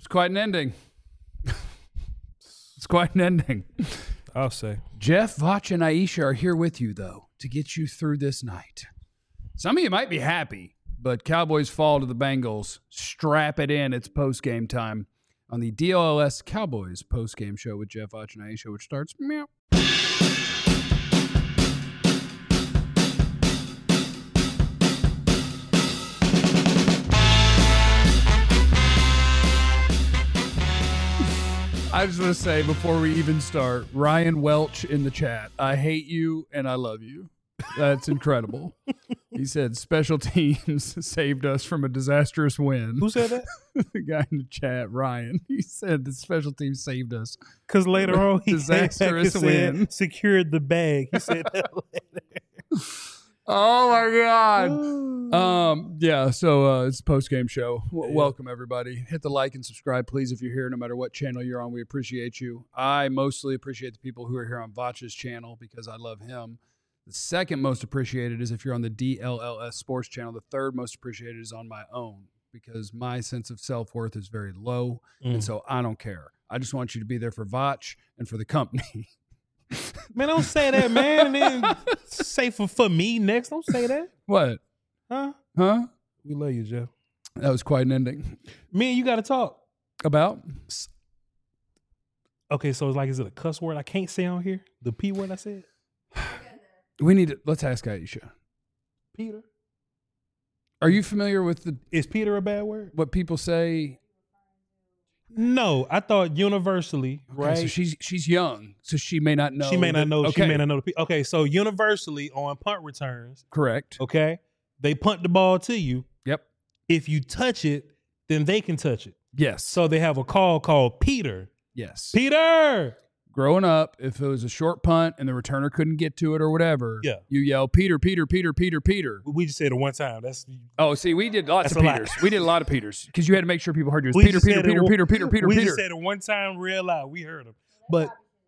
It's quite an ending. It's quite an ending. I'll say. Jeff, Vach, and Aisha are here with you, though, to get you through this night. Some of you might be happy, but Cowboys fall to the Bengals. Strap it in. It's post-game time on the DLLS Cowboys post-game show with Jeff, Vach, and Aisha, which starts meow. I just want to say before we even start, Ryan Welch in the chat, I hate you and I love you. That's incredible. He said special teams saved us from a disastrous win. Who said that? The guy in the chat, Ryan. He said the special teams saved us. Because later on, he disastrous win. Said, secured the bag. He said that later. Oh my God. Yeah, so it's a post-game show. Welcome everybody. Hit the like and subscribe, please, if you're here, no matter what channel you're on. We appreciate you. I mostly appreciate the people who are here on Vach's channel because I love him. The second most appreciated is if you're on the DLLS Sports channel. The third most appreciated is on my own because my sense of self-worth is very low, and so I don't care. I just want you to be there for Vach and for the company. Man, don't say that, man. And then say for me next. Don't say that. What? Huh? We love you, Jeff. That was quite an ending. Me and you got to talk. About? Okay, so it's like, is it a cuss word I can't say on here? The P word I said? We need to, let's ask Aisha. Peter. Are you familiar with Is Peter a bad word? What people say? No, I thought universally, right? So she's young, so she may not know. She may not know. Okay. She may not know. Okay, so universally on punt returns, correct. Okay, they punt the ball to you. Yep. If you touch it, then they can touch it. Yes. So they have a call called Peter. Yes. Peter. Growing up, if it was a short punt and the returner couldn't get to it or whatever, yeah, you yell Peter, Peter, Peter, Peter, Peter. We just said it one time. See, we did lots of Peters. We did a lot of Peters because you had to make sure people heard you. It was Peter, Peter. We just said it one time real loud. We heard him. But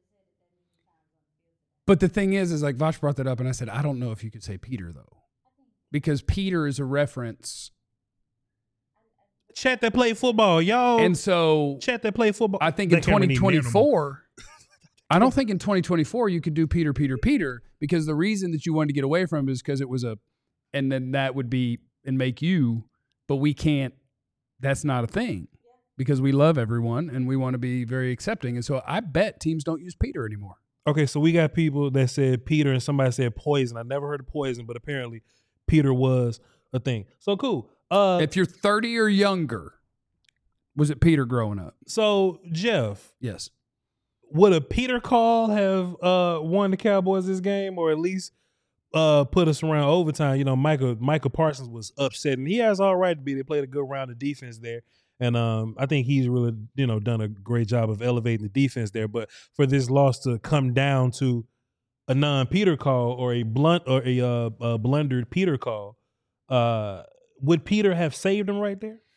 the thing is like Vach brought that up and I said, I don't know if you could say Peter though. Because Peter is a reference. Chat that play football, y'all. And so chat that play football. I think in 2024, I don't think in 2024 you could do Peter, Peter, Peter, because the reason that you wanted to get away from it is because it was and then that would be and make you, but we can't, that's not a thing because we love everyone and we want to be very accepting. And so I bet teams don't use Peter anymore. Okay, so we got people that said Peter and somebody said poison. I never heard of poison, but apparently Peter was a thing. So cool. If you're 30 or younger, was it Peter growing up? So Jeff. Yes. Would a Peter call have won the Cowboys this game, or at least put us around overtime? You know, Michael Parsons was upset, and he has all right to be. They played a good round of defense there, and I think he's really done a great job of elevating the defense there. But for this loss to come down to a non-Peter call or a blundered Peter call, would Peter have saved him right there?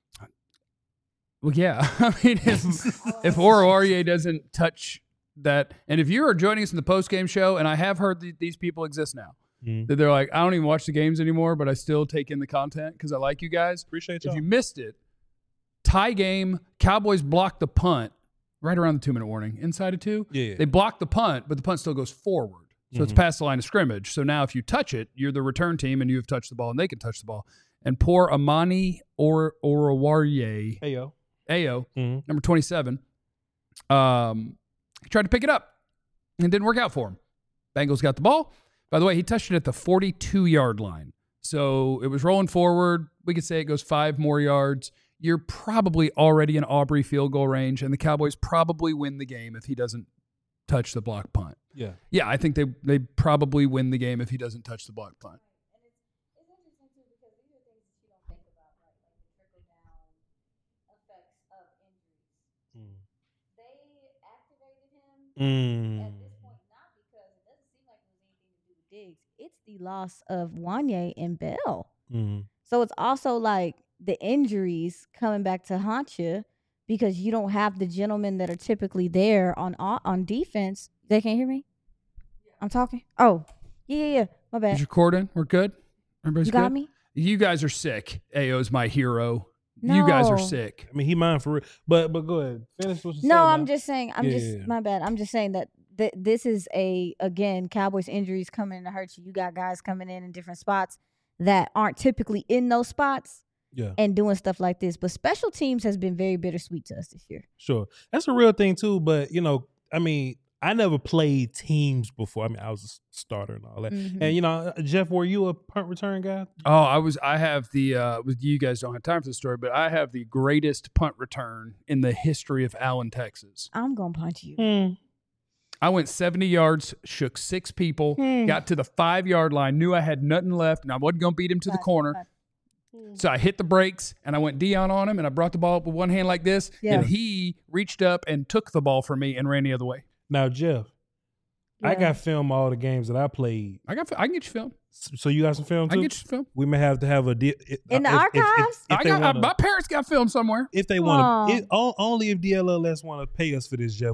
Well, yeah. I mean, if Aurier doesn't touch that, and if you are joining us in the post-game show, and I have heard these people exist now, that they're like, I don't even watch the games anymore, but I still take in the content because I like you guys. Appreciate you. If you missed it, tie game, Cowboys block the punt right around the 2-minute warning. Inside of 2, yeah. They block the punt, but the punt still goes forward. So it's past the line of scrimmage. So now if you touch it, you're the return team, and you have touched the ball, and they can touch the ball. And poor Amani Oruwariye. Ayo, number 27, he tried to pick it up and it didn't work out for him. Bengals got the ball. By the way, he touched it at the 42-yard line. So it was rolling forward. We could say it goes 5 more yards. You're probably already in Aubrey field goal range, and the Cowboys probably win the game if he doesn't touch the block punt. Yeah. Yeah, I think they probably win the game if he doesn't touch the block punt. At this point, not because it doesn't seem like there's anything to do with Diggs. It's the loss of Wanye and Bell. So it's also like the injuries coming back to haunt you because you don't have the gentlemen that are typically there on defense. They can't hear me? I'm talking? Oh, yeah. My bad. Is your cord in? We're good? Everybody's you got good? Me? You guys are sick. Ayo's my hero. No. You guys are sick. I mean, he mine for real. But go ahead. Finish what you No, saying I'm now. just saying. My bad. I'm just saying that this is again, Cowboys injuries coming to hurt you. You got guys coming in different spots that aren't typically in those spots. Yeah. And doing stuff like this. But special teams has been very bittersweet to us this year. Sure. That's a real thing too. But, I mean, I never played teams before. I mean, I was a starter and all that. Mm-hmm. And, Jeff, were you a punt return guy? Oh, I have the, you guys don't have time for the story, but I have the greatest punt return in the history of Allen, Texas. I'm going to punch you. I went 70 yards, shook 6 people, got to the 5-yard line, knew I had nothing left, and I wasn't going to beat him to the corner. So I hit the brakes, and I went Dion on him, and I brought the ball up with one hand like this, and he reached up and took the ball from me and ran the other way. Now, Jeff, I got film all the games that I played. I can get you film. So you got some film too? I can get you film. We may have to have a in the archives. My parents got film somewhere. If they want to, only if DLLS want to pay us for this, Jeff.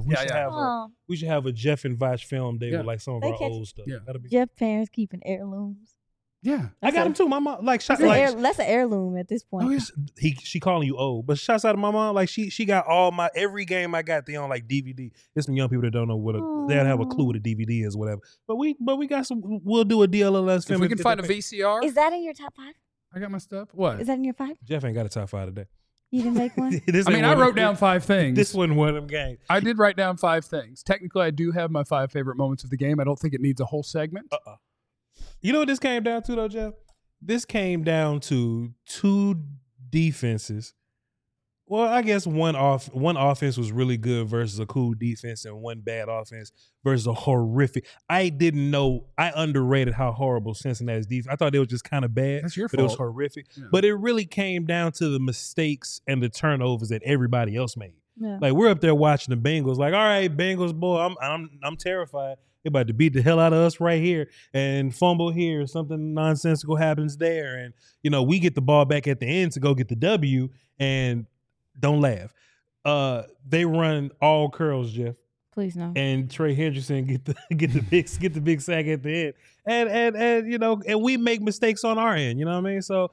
We should have a Jeff and Vash film day with like some of our old stuff. Yeah. Jeff parents keeping heirlooms. Yeah, I got him too. My mom, that's an heirloom at this point. Oh, yeah. She calling you old, but shouts out to my mom. Like she got every game I got. They on like DVD. There's some young people that don't know they don't have a clue what a DVD is, or whatever. But we got some. We'll do a DLLS film. If we can find a VCR. Is that in your top 5? I got my stuff. What is that in your 5? Jeff ain't got a top 5 today. You didn't make one. I wrote down 5 things. This wasn't one of them games. I did write down 5 things. Technically, I do have my 5 favorite moments of the game. I don't think it needs a whole segment. You know what this came down to though, Jeff? This came down to 2 defenses. Well, I guess one offense was really good versus a cool defense, and one bad offense versus a horrific. I didn't know. I underrated how horrible Cincinnati's defense. I thought they were just kind of bad. That's your fault. But it was horrific. Yeah. But it really came down to the mistakes and the turnovers that everybody else made. Yeah. Like we're up there watching the Bengals. Like, all right, Bengals, boy, I'm terrified. They're about to beat the hell out of us right here and fumble here. Something nonsensical happens there. And, we get the ball back at the end to go get the W, and don't laugh. They run all curls, Jeff. Please no. And Trey Hendrickson get the big sack at the end. And we make mistakes on our end, you know what I mean? So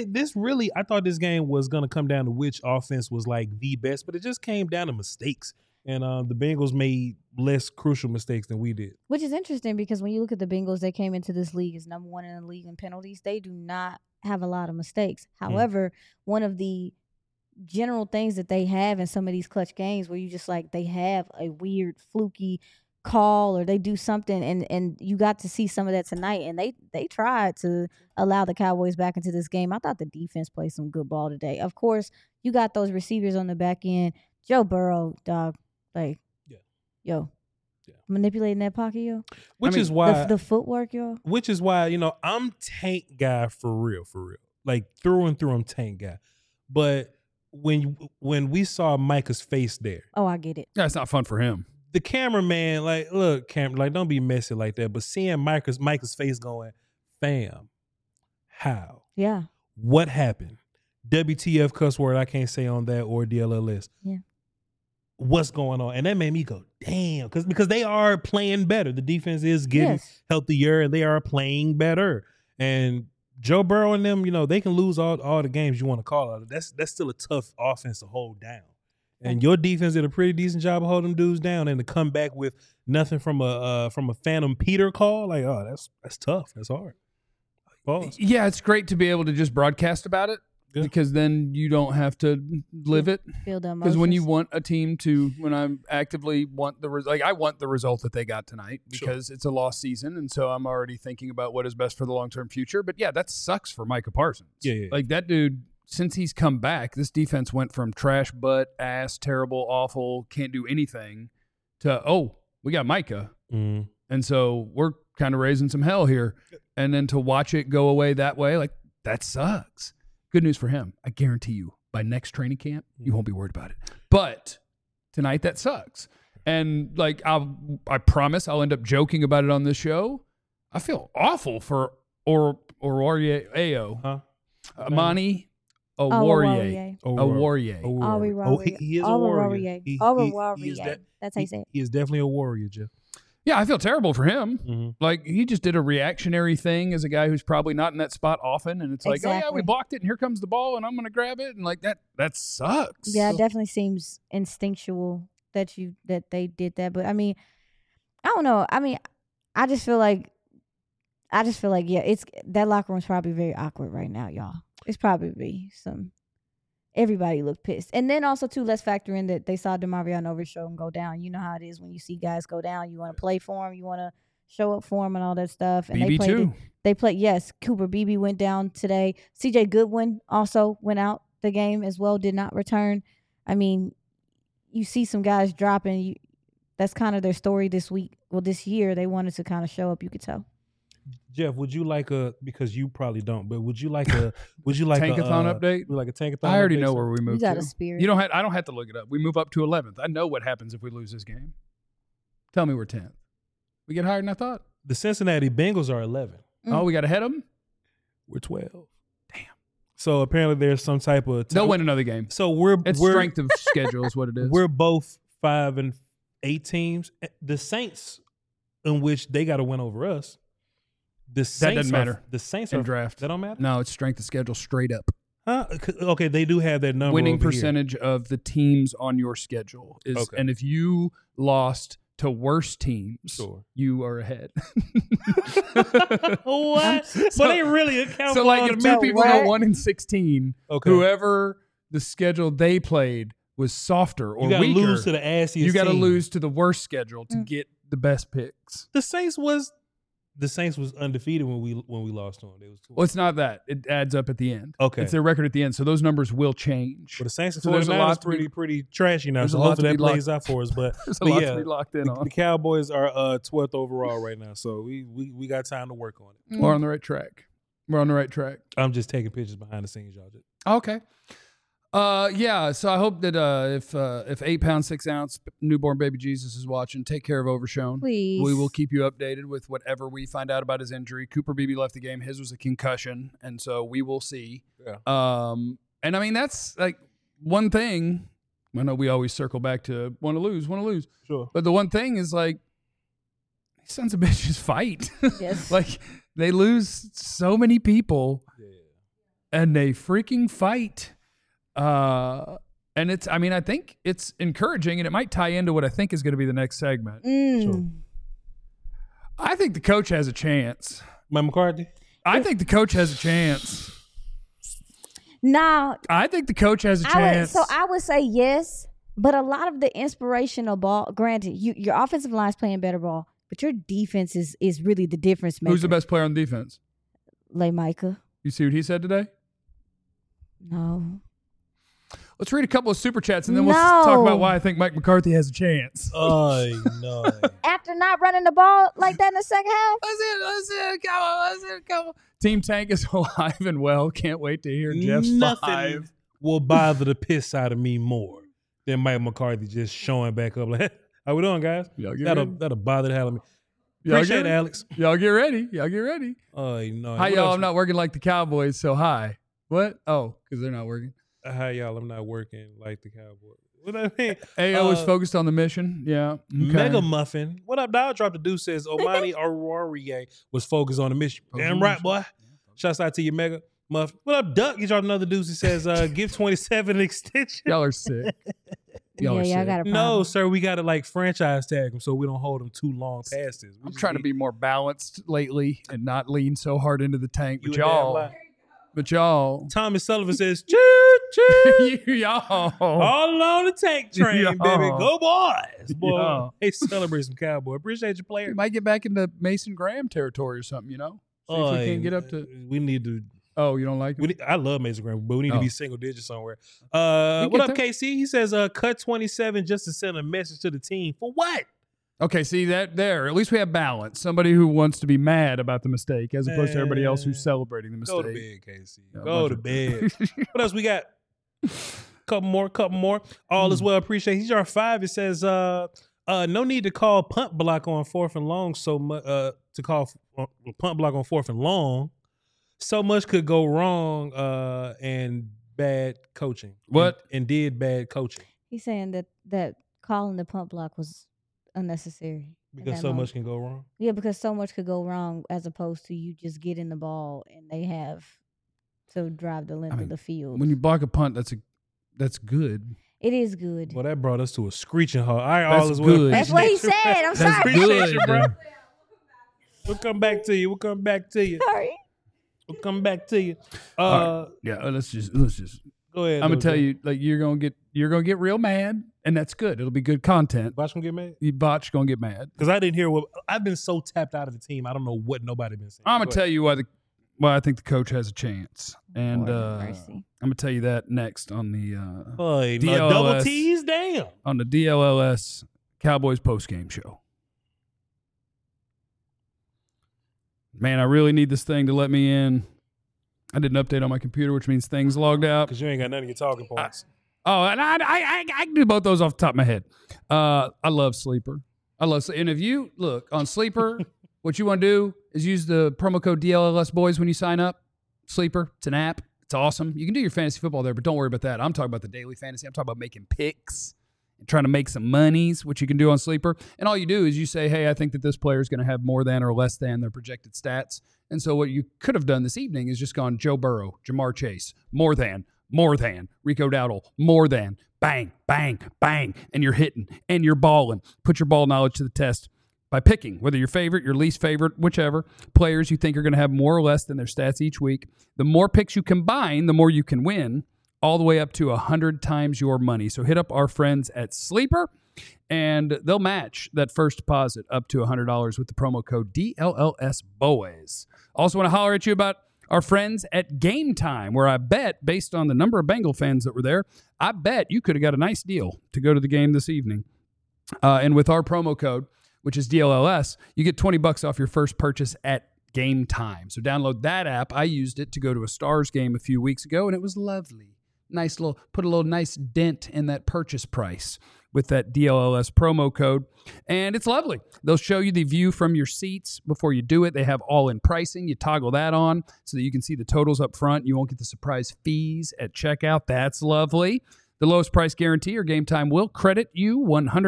I thought this game was going to come down to which offense was like the best, but it just came down to mistakes. And the Bengals made less crucial mistakes than we did. Which is interesting because when you look at the Bengals, they came into this league as number 1 in the league in penalties. They do not have a lot of mistakes. However, one of the general things that they have in some of these clutch games where you just like they have a weird fluky call or they do something and you got to see some of that tonight, and they tried to allow the Cowboys back into this game. I thought the defense played some good ball today. Of course, you got those receivers on the back end. Joe Burrow, dog. Like, manipulating that pocket, yo. Which is why the footwork, yo. Which is why I'm tank guy for real, like through and through. I'm tank guy. But when we saw Micah's face there, I get it. Yeah, it's not fun for him. The cameraman, like, look, don't be messy like that. But seeing Micah's face going, fam, how? Yeah. What happened? WTF cuss word I can't say on that or DLLS. Yeah. What's going on? And that made me go, damn, because they are playing better. The defense is getting healthier and they are playing better. And Joe Burrow and them, they can lose all the games you want to call it. That's still a tough offense to hold down. And your defense did a pretty decent job of holding them dudes down, and to come back with nothing from a Phantom Peter call, like, that's tough. That's hard. Pause. Yeah, it's great to be able to just broadcast about it. Yeah. Because then you don't have to live it. Feel the emotions. Because when you want a team when I actively want I want the result that they got tonight because it's a lost season, and so I'm already thinking about what is best for the long-term future. But yeah, that sucks for Micah Parsons. Yeah. Like that dude, since he's come back, this defense went from trash, butt, ass, terrible, awful, can't do anything, to we got Micah, and so we're kind of raising some hell here, and then to watch it go away that way, like that sucks. Good news for him. I guarantee you, by next training camp, you won't be worried about it. But tonight, that sucks. And like I promise I'll end up joking about it on this show. I feel awful for Oruwariye. Amani Oruwariye. He is a warrior. That's how you say it. He is definitely a warrior, Jeff. Yeah, I feel terrible for him. Mm-hmm. Like, he just did a reactionary thing as a guy who's probably not in that spot often. And it's like, oh, yeah, we blocked it, and here comes the ball, and I'm going to grab it. And, like, that sucks. Yeah, it definitely seems instinctual that they did that. But, I mean, I don't know. I mean, I just feel like, yeah, it's that locker room's probably very awkward right now, y'all. It's probably everybody looked pissed. And then also, too, let's factor in that they saw DeMarvion Overshow and go down. You know how it is when you see guys go down. You want to play for them. You want to show up for them and all that stuff. And they played yes, Cooper Beebe went down today. CJ Goodwin also went out the game as well, did not return. I mean, you see some guys dropping. That's kind of their story this week. Well, this year, they wanted to kind of show up, you could tell. Jeff, would you like because you probably don't, but would you like tankathon update? Like a tankathon? I already know where we moved to. You got a spirit. I don't have to look it up. We move up to 11th. I know what happens if we lose this game. Tell me we're 10th. We get higher than I thought. The Cincinnati Bengals are 11. Oh, we got to head them? We're 12. Damn. So apparently there's some type of they'll win another game. So we're strength of schedule is what it is. We're both 5 and 8 teams. The Saints, in which they got to win over us. That doesn't matter. The Saints in draft. That don't matter? No, it's strength of schedule straight up. Huh? Okay, they do have that number. Winning percentage of the teams on your schedule is, okay. And if you lost to worse teams, you are ahead. What? So they really account so like if two people go 1-16, whoever the schedule they played was softer or weaker, lose to the assiest you got to team. lose to the worst schedule to get the best picks. The Saints was undefeated when we lost to them. Well, it's not that. It adds up at the end. Okay. It's their record at the end, so those numbers will change. Well, the Saints are pretty trashy now, so hopefully that plays out for us. But there's a lot to be locked in on. The Cowboys are 12th overall right now, so we got time to work on it. We're on the right track. I'm just taking pictures behind the scenes, y'all. Okay. Yeah, so I hope that if 8 pound 6 ounce newborn baby Jesus is watching, take care of Overshown. Please. We will keep you updated with whatever we find out about his injury. Cooper Beebe left the game. His was a concussion, and so we will see. Yeah. And I mean, that's like one thing. I know we always circle back to want to lose. Sure. But the one thing is like, these sons of bitches fight. Yes. Like, they lose so many people, and they freaking fight. And I think it's encouraging, and it might tie into what I think is going to be the next segment. Sure. I think the coach has a chance. Mike McCarthy? I think the coach has a chance. Now, I think the coach has a chance. I would say yes, but a lot of the inspirational ball, granted, your offensive line is playing better ball, but your defense is really the difference maker. Who's the best player on defense? Micah. You see what he said today? No. Let's read a couple of super chats, and then we'll talk about why I think Mike McCarthy has a chance. Oh, no. After not running the ball like that in the second half? Let's go. Team Tank is alive and well. Can't wait to hear Jeff's Nothing will bother the piss out of me more than Mike McCarthy just showing back up like, how we doing, guys? That'll bother the hell out of me. Appreciate it, Alex. Y'all get ready. Oh, no. Hi, y'all. I'm not working like the Cowboys, so hi. What? Oh, because they're not working. Hi, y'all. I'm not working like the Cowboys. What I mean? AO is focused on the mission. Yeah. Okay. Mega Muffin. What up, Dial Drop the Deuce says Omani Aruarie was focused on the mission. Damn right, boy. Shouts out to you, Mega Muffin. What up, Duck? You dropped another Deuce. He says, give 27 an extension. Y'all are sick. Y'all got a problem. No, sir. We got to like franchise tag them so we don't hold them too long past this. I'm trying to be more balanced lately and not lean so hard into the tank. But y'all. Thomas Sullivan says, choo, choo. Y'all. All on the tank train, y'all. baby. Go boys. Boy. Y'all. Hey, celebrate some Cowboy. Appreciate your player. We might get back into Mason Graham territory or something, See if we can't get up to. We need to. Oh, you don't like him? I love Mason Graham, but we need to be single digits somewhere. What up, KC? He says, cut 27 just to send a message to the team. For what? Okay, see that there. At least we have balance. Somebody who wants to be mad about the mistake as opposed to everybody else who's celebrating the mistake. Go to bed, KC. Go to bed. What else we got? Couple more. All is well. Appreciate. He's our 5. It says, no need to call punt block on 4th and long so much. To call punt block on 4th and long, so much could go wrong. And bad coaching. What? And did bad coaching. He's saying that calling the punt block was unnecessary. Because so much can go wrong? Yeah, because so much could go wrong as opposed to you just getting the ball and they have to drive the length of the field. When you block a punt, that's good. It is good. Well, that brought us to a screeching halt. That's good. That's what he said. I'm that's sorry. Good, bro. We'll come back to you. Sorry. We'll come back to you. Yeah, let's just go ahead. I'm gonna tell you, like you're gonna get real mad, and that's good. It'll be good content. Botch gonna get mad? Botch gonna get mad because I didn't hear what I've been so tapped out of the team. I don't know what nobody been saying. I'm gonna tell you why I think the coach has a chance, and I'm gonna tell you that next on the DLLS, double T's down on the DLLS Cowboys postgame show. Man, I really need this thing to let me in. I did an update on my computer, which means things logged out. Because you ain't got none of your talking points. And I can do both those off the top of my head. I love Sleeper. And if you look on Sleeper, what you want to do is use the promo code DLLS Boys when you sign up. Sleeper, it's an app. It's awesome. You can do your fantasy football there, but don't worry about that. I'm talking about the daily fantasy. I'm talking about making picks and trying to make some monies, which you can do on Sleeper. And all you do is you say, hey, I think that this player is going to have more than or less than their projected stats. And so what you could have done this evening is just gone Joe Burrow, Jamar Chase, more than, Rico Dowdle, more than, bang, bang, bang, and you're hitting and you're balling. Put your ball knowledge to the test by picking whether your favorite, your least favorite, whichever players you think are going to have more or less than their stats each week. The more picks you combine, the more you can win, all the way up to 100 times your money. So hit up our friends at Sleeper, and they'll match that first deposit up to $100 with the promo code DLLS Boys. Also want to holler at you about our friends at Game Time, where I bet, based on the number of Bengal fans that were there, I bet you could have got a nice deal to go to the game this evening. And with our promo code, which is DLLS, you get $20 off your first purchase at Game Time. So download that app. I used it to go to a Stars game a few weeks ago, and it was lovely. Put a little nice dent in that purchase price with that DLLS promo code. And it's lovely. They'll show you the view from your seats before you do it. They have all-in pricing. You toggle that on so that you can see the totals up front. You won't get the surprise fees at checkout. That's lovely. The lowest price guarantee or Game Time will credit you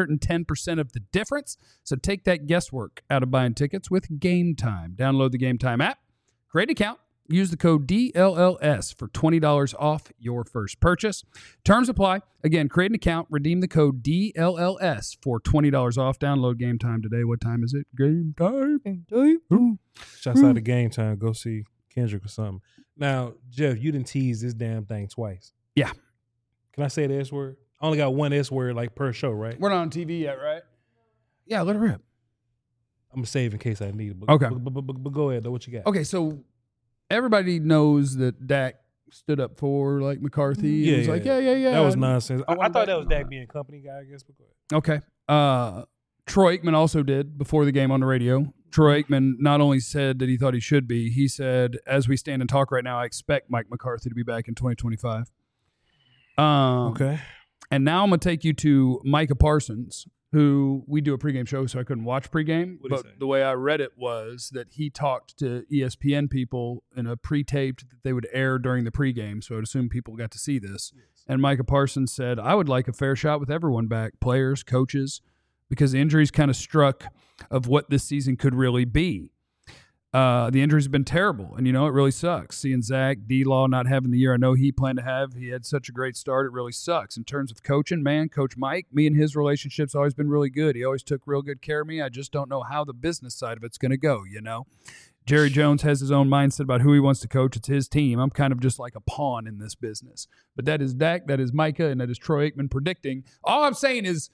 110% of the difference. So take that guesswork out of buying tickets with Game Time. Download the Game Time app, create an account, use the code DLLS for $20 off your first purchase. Terms apply. Again, create an account, redeem the code DLLS for $20 off. Download Game Time today. What time is it? Game Time. Shouts out to Game Time. Go see Kendrick or something. Now, Jeff, you didn't tease this damn thing twice. Yeah. Can I say the S word? I only got one S word like per show, right? We're not on TV yet, right? Yeah, let it rip. I'm going to save in case I need it. But, okay. But go ahead, though. What you got? Okay, so everybody knows that Dak stood up for like McCarthy. Yeah, it was like, yeah. That was nonsense. I thought that was Dak being company guy, I guess. But go ahead. Okay. Troy Aikman also did before the game on the radio. Troy Aikman not only said that he thought he should be, he said, as we stand and talk right now, I expect Mike McCarthy to be back in 2025. Okay. And now I'm going to take you to Micah Parsons, who we do a pregame show, so I couldn't watch pregame. But the way I read it was that he talked to ESPN people in a pre-taped that they would air during the pregame, so I'd assume people got to see this. Yes. And Micah Parsons said, I would like a fair shot with everyone back, players, coaches, because the injuries kind of struck of what this season could really be. The injuries have been terrible, and, it really sucks. Seeing Zach, D-Law not having the year I know he planned to have. He had such a great start. It really sucks. In terms of coaching, man, Coach Mike, me and his relationship's always been really good. He always took real good care of me. I just don't know how the business side of it's going to go, Jerry Jones has his own mindset about who he wants to coach. It's his team. I'm kind of just like a pawn in this business. But that is Dak, that is Micah, and that is Troy Aikman predicting. All I'm saying is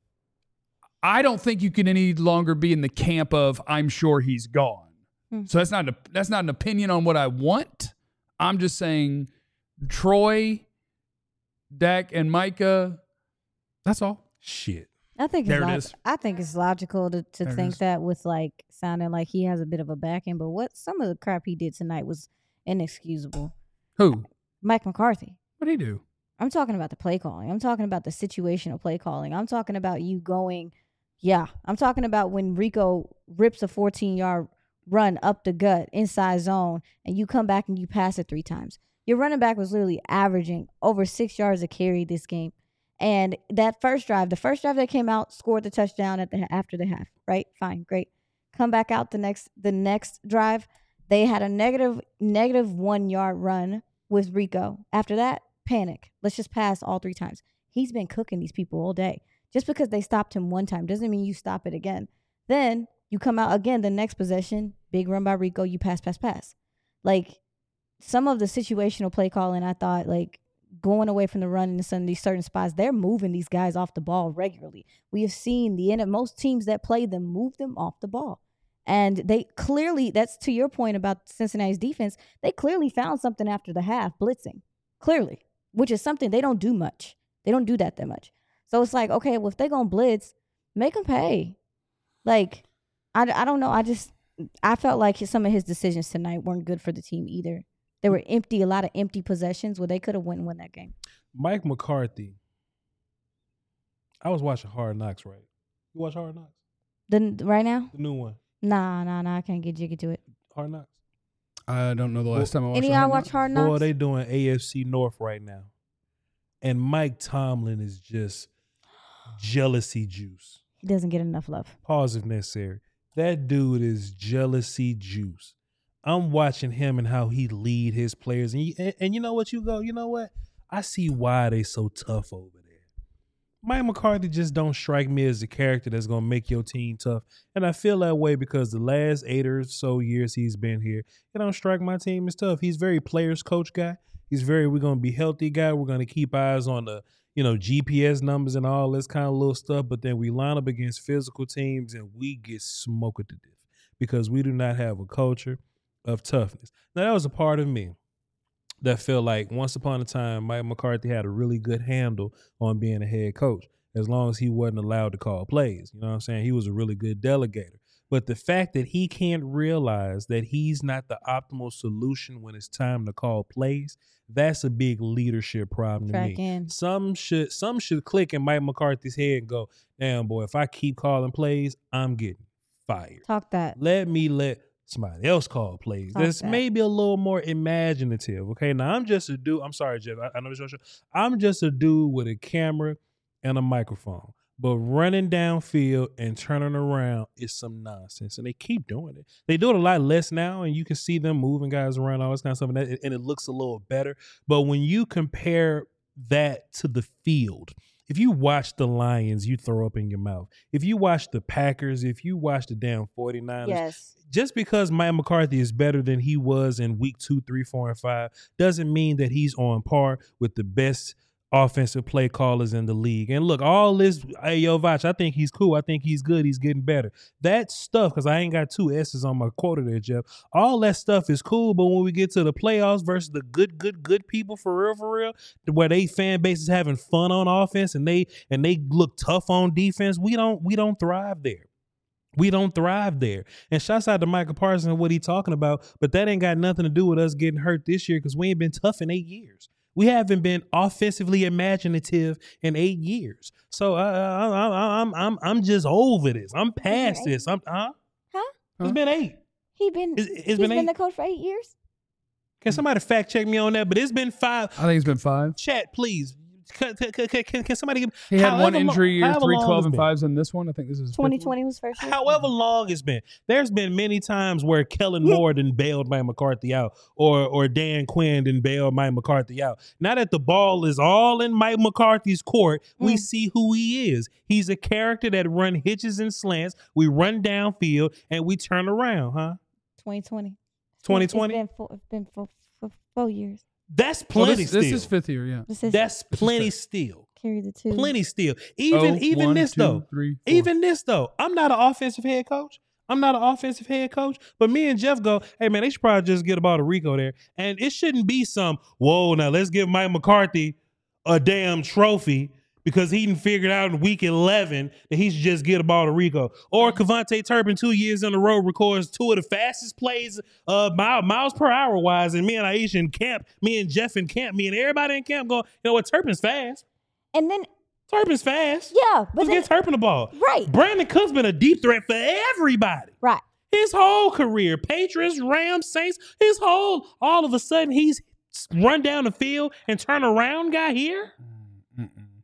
I don't think you can any longer be in the camp of I'm sure he's gone. So that's not an opinion on what I want. I'm just saying Troy, Dak, and Micah, that's all. Shit. I think it's logical to think that with like sounding like he has a bit of a back end, but some of the crap he did tonight was inexcusable. Who? Mike McCarthy. What did he do? I'm talking about the play calling. I'm talking about the situational play calling. I'm talking about you going, I'm talking about when Rico rips a 14-yard run up the gut, inside zone, and you come back and you pass it 3 times. Your running back was literally averaging over 6 yards a carry this game. And that the first drive that came out, scored the touchdown after the half, right? Fine, great. Come back out the next drive, they had a negative 1 yard run with Rico. After that, panic. Let's just pass all 3 times. He's been cooking these people all day. Just because they stopped him one time doesn't mean you stop it again. Then you come out again the next possession, big run by Rico, you pass. Like, some of the situational play calling, I thought, like, going away from the run in some of these certain spots, they're moving these guys off the ball regularly. We have seen the end of most teams that play them move them off the ball. And they clearly, that's to your point about Cincinnati's defense, they clearly found something after the half, blitzing. Clearly, which is something they don't do much. They don't do that much. So it's like, okay, well, if they're going to blitz, make them pay. Like, I don't know. I felt like some of his decisions tonight weren't good for the team either. There were a lot of empty possessions where they could have won that game. Mike McCarthy. I was watching Hard Knocks, right? You watch Hard Knocks? Right now? The new one. Nah. I can't get jiggy to it. Hard Knocks. I don't know the last time I watched Any of y'all watch Hard Knocks? Boy, they doing AFC North right now. And Mike Tomlin is just jealousy juice. He doesn't get enough love. Pause if necessary. That dude is jealousy juice. I'm watching him and how he lead his players. And you know what, you know what? I see why they so tough over there. Mike McCarthy just don't strike me as the character that's going to make your team tough. And I feel that way because the last 8 or so years he's been here, it don't strike my team as tough. He's very players coach guy. He's we're going to be healthy guy. We're going to keep eyes on the, GPS numbers and all this kind of little stuff. But then we line up against physical teams and we get smoked to death because we do not have a culture of toughness. Now, that was a part of me that felt like once upon a time, Mike McCarthy had a really good handle on being a head coach as long as he wasn't allowed to call plays. You know what I'm saying? He was a really good delegator. But the fact that he can't realize that he's not the optimal solution when it's time to call plays, that's a big leadership problem to me. Some should click in Mike McCarthy's head and go, damn, boy, if I keep calling plays, I'm getting fired. Talk that. Let somebody else call plays. That's maybe a little more imaginative. Okay, now I'm just a dude. I'm sorry, Jeff. I know this is your show. I'm just a dude with a camera and a microphone. But running downfield and turning around is some nonsense, and they keep doing it. They do it a lot less now, and you can see them moving guys around, all this kind of stuff, and it looks a little better. But when you compare that to the field, if you watch the Lions, you throw up in your mouth. If you watch the Packers, if you watch the damn 49ers, just because Mike McCarthy is better than he was in week 2, 3, 4, and 5 doesn't mean that he's on par with the best offensive play callers in the league. And look, all this, hey, yo, Vach, I think he's cool. I think he's good. He's getting better. That stuff, because I ain't got 2 S's on my quota there, Jeff. All that stuff is cool, but when we get to the playoffs versus the good people for real, where they fan base is having fun on offense and they look tough on defense, we don't thrive there. We don't thrive there. And shouts out to Micah Parsons and what he talking about, but that ain't got nothing to do with us getting hurt this year because we ain't been tough in 8 years. We haven't been offensively imaginative in 8 years. So I'm just over this. I'm past this. It's been 8. He's been the coach for 8 years. Can somebody fact check me on that? But it's been 5. I think it's been 5. Chat, please. Can somebody give? He had one injury year, 3 12-5s in this one. I think this is 2020 was first year. However long it's been, there's been many times where Kellen Moore done bailed Mike McCarthy out, or Dan Quinn done bailed Mike McCarthy out. Now that the ball is all in Mike McCarthy's court, we see who he is. He's a character that run hitches and slants. We run downfield and we turn around, huh? 2020. 2020. It's been for 4 years. That's plenty still. This is 5th year, yeah. That's plenty still. Carry the 2. Plenty still. Even 1, this 2, though. 3, 4. Even this though. I'm not an offensive head coach. But me and Jeff go, hey man, they should probably just get the ball to Rico there. And it shouldn't be whoa, now let's give Mike McCarthy a damn trophy because he didn't figure it out in week 11 that he should just get a ball to Rico. Or Kevontae Turpin 2 years in a row records 2 of the fastest plays miles per hour wise. And me and Aisha in camp, me and Jeff in camp, me and everybody in camp go, you know what, Turpin's fast. And then Turpin's fast. Yeah. But let's get Turpin the ball. Right. Brandon Cook's been a deep threat for everybody. Right. His whole career, Patriots, Rams, Saints, all of a sudden he's run down the field and turn around guy here.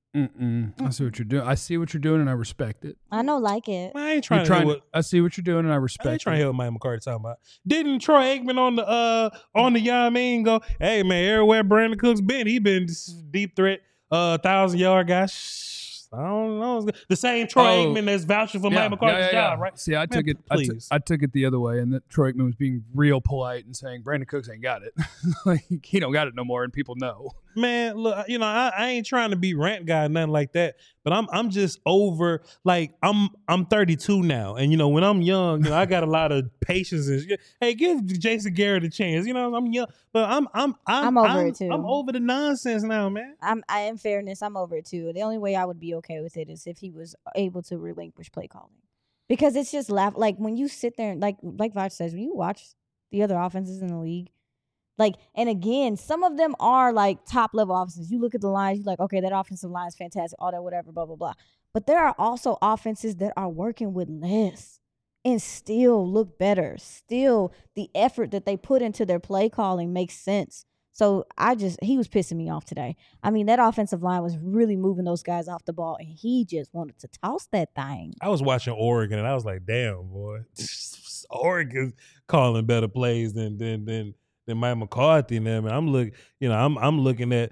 I see what you're doing. I see what you're doing, and I respect it. I know, like it. I ain't trying to. I see what you're doing, and I respect it. I ain't trying to hear what Mike McCarthy talking about. Didn't Troy Aikman on the you know what I mean, go, hey man, everywhere Brandon Cooks been, he been deep threat, 1,000-yard guy. I don't know. The same Troy Aikman that's vouching for Mike McCarthy's job, right? See, I took it the other way, and that Troy Aikman was being real polite and saying Brandon Cooks ain't got it. Like, he don't got it no more, and people know. Man, look, you know, I ain't trying to be rant guy, nothing like that. But I'm just over. Like, I'm 32 now, and you know, when I'm young, you know, I got a lot of patience. And hey, give Jason Garrett a chance. You know, I'm young, but I'm over it too. I'm over the nonsense now, man. In fairness, I'm over it too. The only way I would be okay with it is if he was able to relinquish play calling, because it's just like when you sit there and like Vaj says, when you watch the other offenses in the league. Like, and again, some of them are like top level offenses. You look at the lines, you're like, okay, that offensive line is fantastic, all that, whatever, blah, blah, blah. But there are also offenses that are working with less and still look better. Still, the effort that they put into their play calling makes sense. So he was pissing me off today. I mean, that offensive line was really moving those guys off the ball, and he just wanted to toss that thing. I was watching Oregon, and I was like, damn, boy, Oregon's calling better plays than Mike McCarthy and them. And I'm looking at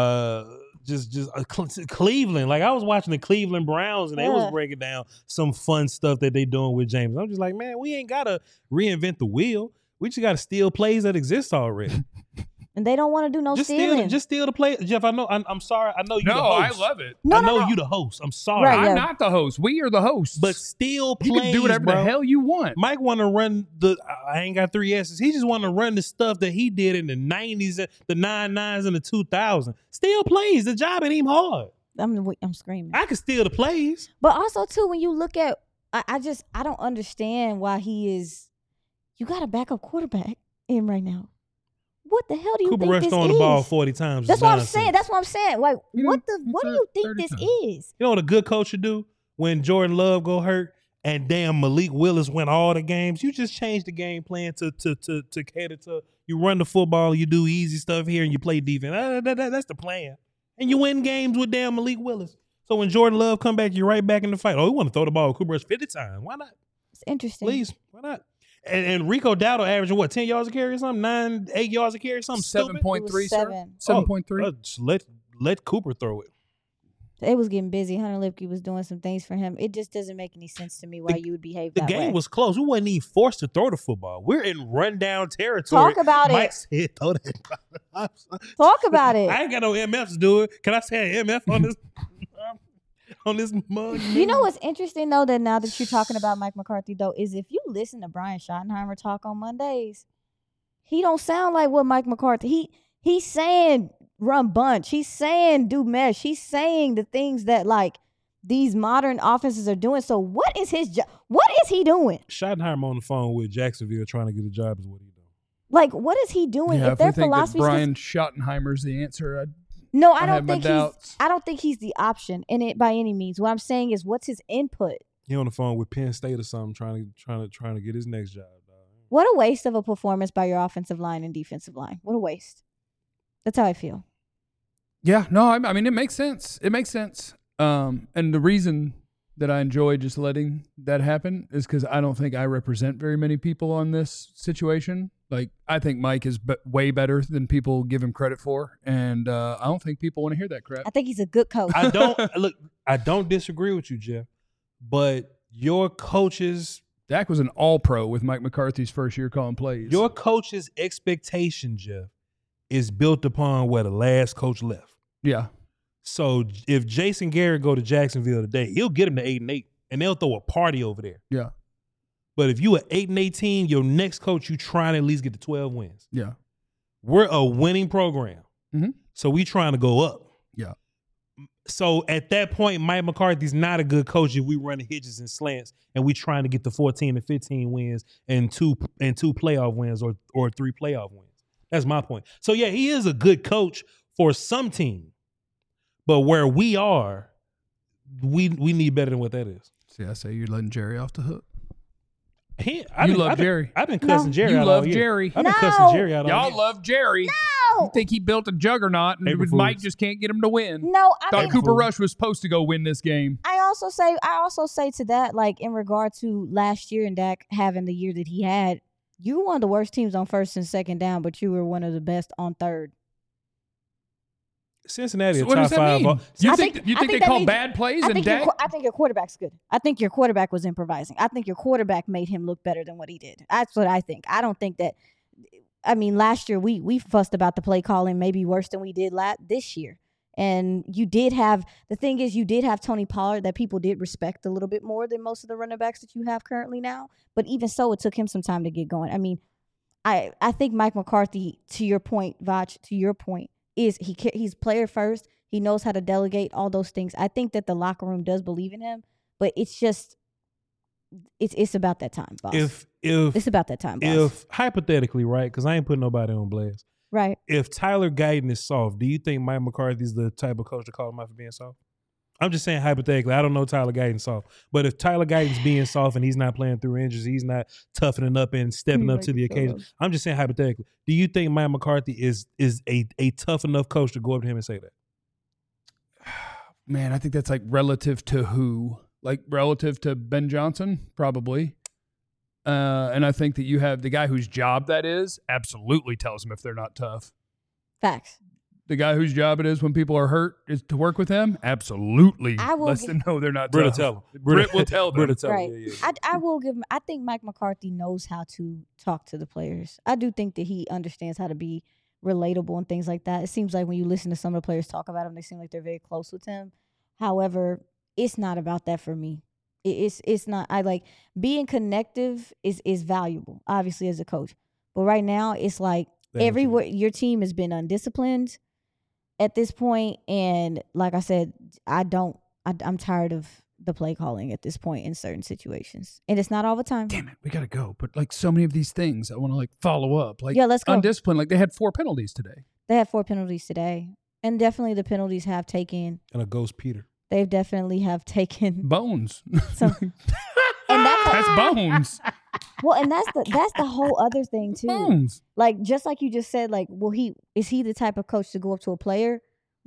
Cleveland. Like, I was watching the Cleveland Browns, and they was breaking down some fun stuff that they doing with James. I'm just like, man, we ain't gotta reinvent the wheel. We just gotta steal plays that exist already. And they don't want to do no stealing. Just steal the play. Jeff, I know. I'm sorry. I know you. No, the host. I love it. I know you the host. I'm sorry. Right, I'm not the host. We are the hosts. But steal plays. You can do whatever the hell you want. Mike want to run I ain't got 3 S's. He just want to run the stuff that he did in the 90s, the 99s, and the 2000s. Steal plays. The job ain't even hard. I'm screaming. I can steal the plays. But also, too, when you look at, I don't understand why you got a backup quarterback in right now. What the hell do you think this is? Cooper Rush throwing the ball 40 times. That's what I'm saying. Like, what do you think this is? You know what a good coach should do when Jordan Love go hurt and damn Malik Willis win all the games? You just change the game plan to cater to, you run the football, you do easy stuff here, and you play defense. That's the plan. And you win games with damn Malik Willis. So when Jordan Love come back, you're right back in the fight. Oh, we want to throw the ball with Cooper Rush 50 times. Why not? It's interesting. Please, why not? And Rico Dowdle averaging what, 10 yards a carry or something? 8 yards a carry or something? 7.3, sir. 7.3. Let Cooper throw it. It was getting busy. Hunter Lipke was doing some things for him. It just doesn't make any sense to me why you would behave that way. The game was close. We wasn't even forced to throw the football. We're in rundown territory. Talk about Mike said, throw that. Talk about it. I ain't got no MFs to do it. Can I say an MF on this? On this mug. You know what's interesting, though, that now that you're talking about Mike McCarthy, though, is if you listen to Brian Schottenheimer talk on Mondays, he don't sound like what Mike McCarthy. He's saying run bunch. He's saying do mesh. He's saying the things that, like, these modern offenses are doing. So what is his job? What is he doing? Schottenheimer on the phone with Jacksonville trying to get a job is what he doing. Like, what is he doing? Yeah, if their we think philosophy that Brian Schottenheimer's the answer, No, I don't think he's the option in it by any means. What I'm saying is, what's his input? He on the phone with Penn State or something, trying to get his next job. What a waste of a performance by your offensive line and defensive line. What a waste. That's how I feel. Yeah, no, I mean, it makes sense. It makes sense. And the reason that I enjoy just letting that happen is because I don't think I represent very many people on this situation. Like, I think Mike is way better than people give him credit for, and I don't think people want to hear that crap. I think he's a good coach. I don't disagree with you, Jeff, but your coaches... Dak was an all-pro with Mike McCarthy's first year calling plays. Your coach's expectation, Jeff, is built upon where the last coach left. Yeah. So if Jason Garrett go to Jacksonville today, he'll get him to 8-8, and they'll throw a party over there. Yeah. But if you an 8-18, your next coach, you trying to at least get to 12 wins. Yeah. We're a winning program. Mm-hmm. So we trying to go up. Yeah. So at that point, Mike McCarthy's not a good coach if we run hitches and slants and we trying to get to 14 and 15 wins and two playoff wins or 3 playoff wins. That's my point. So yeah, he is a good coach for some team. But where we are, we need better than what that is. See, I say you're letting Jerry off the hook. Jerry. I've been cussing Jerry out. You love all year. Jerry. I've been cussing Jerry out. Y'all love Jerry. No. You think he built a juggernaut and Mike just can't get him to win? No, I thought Cooper Rush was supposed to go win this game. I also say to that, like in regard to last year and Dak having the year that he had, you were one of the worst teams on first and second down, but you were one of the best on third. Cincinnati, so what does that top mean? five. You think they call bad plays and Dak? I think your quarterback's good. I think your quarterback was improvising. I think your quarterback made him look better than what he did. That's what I think. I don't think that. I mean, last year we fussed about the play calling maybe worse than we did this year. And you did have Tony Pollard that people did respect a little bit more than most of the running backs that you have currently now. But even so, it took him some time to get going. I mean, I think Mike McCarthy, to your point, Vach, he's player first. He knows how to delegate all those things. I think that the locker room does believe in him, but it's just it's about that time, boss. It's about that time, boss. If hypothetically, right, because I ain't putting nobody on blast. Right. If Tyler Guyton is soft, do you think Mike McCarthy's the type of coach to call him out for being soft? I'm just saying hypothetically. I don't know Tyler Guyton's soft. But if Tyler Guyton's being soft and he's not playing through injuries, he's not toughening up and stepping up to the occasion. I'm just saying hypothetically. Do you think Mike McCarthy is a tough enough coach to go up to him and say that? Man, I think that's like relative to who? Like relative to Ben Johnson? Probably. And I think that you have the guy whose job that is absolutely tells them if they're not tough. Facts. The guy whose job it is when people are hurt is to work with him. Absolutely. Lets them know they're not tough. Britt will tell them. Right. I will give him. I think Mike McCarthy knows how to talk to the players. I do think that he understands how to be relatable and things like that. It seems like when you listen to some of the players talk about him, they seem like they're very close with him. However, it's not about that for me. It's not. I like being connective is valuable, obviously, as a coach. But right now, it's like everywhere your team has been undisciplined at this point, and like I said, I'm tired of the play calling at this point in certain situations, and it's not all the time. Damn it, we gotta go. But like so many of these things, I want to like follow up. Like yeah, let's go. Undisciplined. Like they had 4 penalties today. They had 4 penalties today, and definitely the penalties have taken and a ghost Peter. They've definitely have taken bones. And that's bones. Well, and that's the whole other thing too. Bones. Like just like you just said, like, is he the type of coach to go up to a player?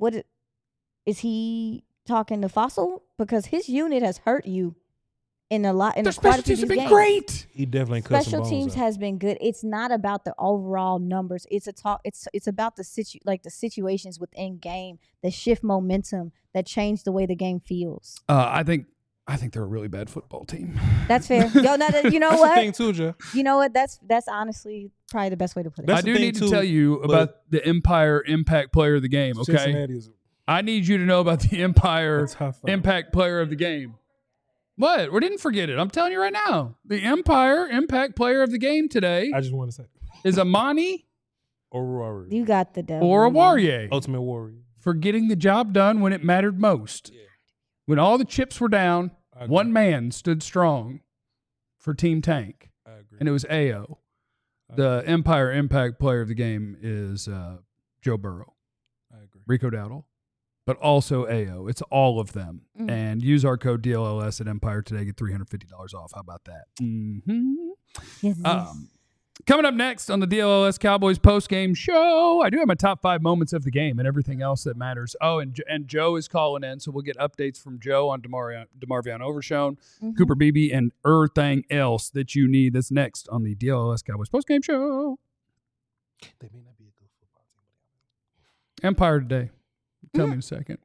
Is he talking to Fossil? Because his unit has hurt you in a lot. Their special teams have been great. He definitely cut special some teams bones has been good. It's not about the overall numbers. It's about the situations within game that shift momentum, that change the way the game feels. I think they're a really bad football team. That's fair. Yo, no, you know that's what? The thing too, Joe. You know what? That's honestly probably the best way to put it. I do need to tell you about the Empire Impact Player of the Game. Okay, I need you to know about the Empire Impact Player of the Game. What? We didn't forget it. I'm telling you right now. The Empire Impact Player of the Game today. I just want to say is Amani Oruwariye. You got the devil. Oruwariye. Ultimate Warrior. For getting the job done when it mattered most. Yeah. When all the chips were down, one man stood strong for Team Tank. I agree. And it was AO. The Empire Impact Player of the Game is Joe Burrow. I agree. Rico Dowdle. But also AO. It's all of them. Mm-hmm. And use our code DLLS at Empire today. Get $350 off. How about that? Mm-hmm. Yes. Coming up next on the DLLS Cowboys post-game show, I do have my top 5 moments of the game and everything else that matters. Oh, and Joe is calling in, so we'll get updates from Joe on DeMarvion Overshown, Cooper Beebe, and everything else that you need. That's next on the DLLS Cowboys post-game show. They may not be a good football team. Empire today. Tell me in a second.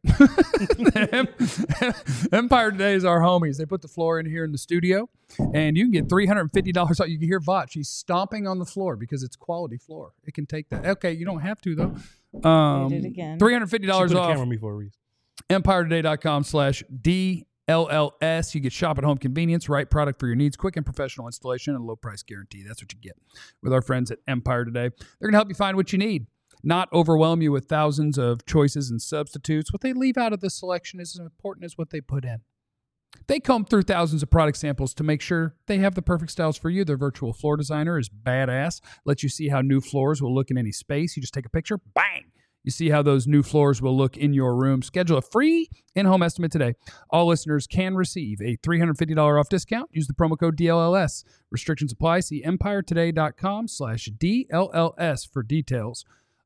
Empire Today is our homies. They put the floor in here in the studio, and you can get $350 off. You can hear Vach. She's stomping on the floor because it's quality floor. It can take that. Okay, you don't have to, though. Did it again. $350 off. She put a camera on me for a reason. EmpireToday.com/DLLS. You get shop at home convenience, right product for your needs, quick and professional installation, and low price guarantee. That's what you get with our friends at Empire Today. They're going to help you find what you need. Not overwhelm you with thousands of choices and substitutes. What they leave out of the selection is as important as what they put in. They comb through thousands of product samples to make sure they have the perfect styles for you. Their virtual floor designer is badass. Lets you see how new floors will look in any space. You just take a picture, bang! You see how those new floors will look in your room. Schedule a free in-home estimate today. All listeners can receive a $350 off discount. Use the promo code DLLS. Restrictions apply. See EmpireToday.com/DLLS for details.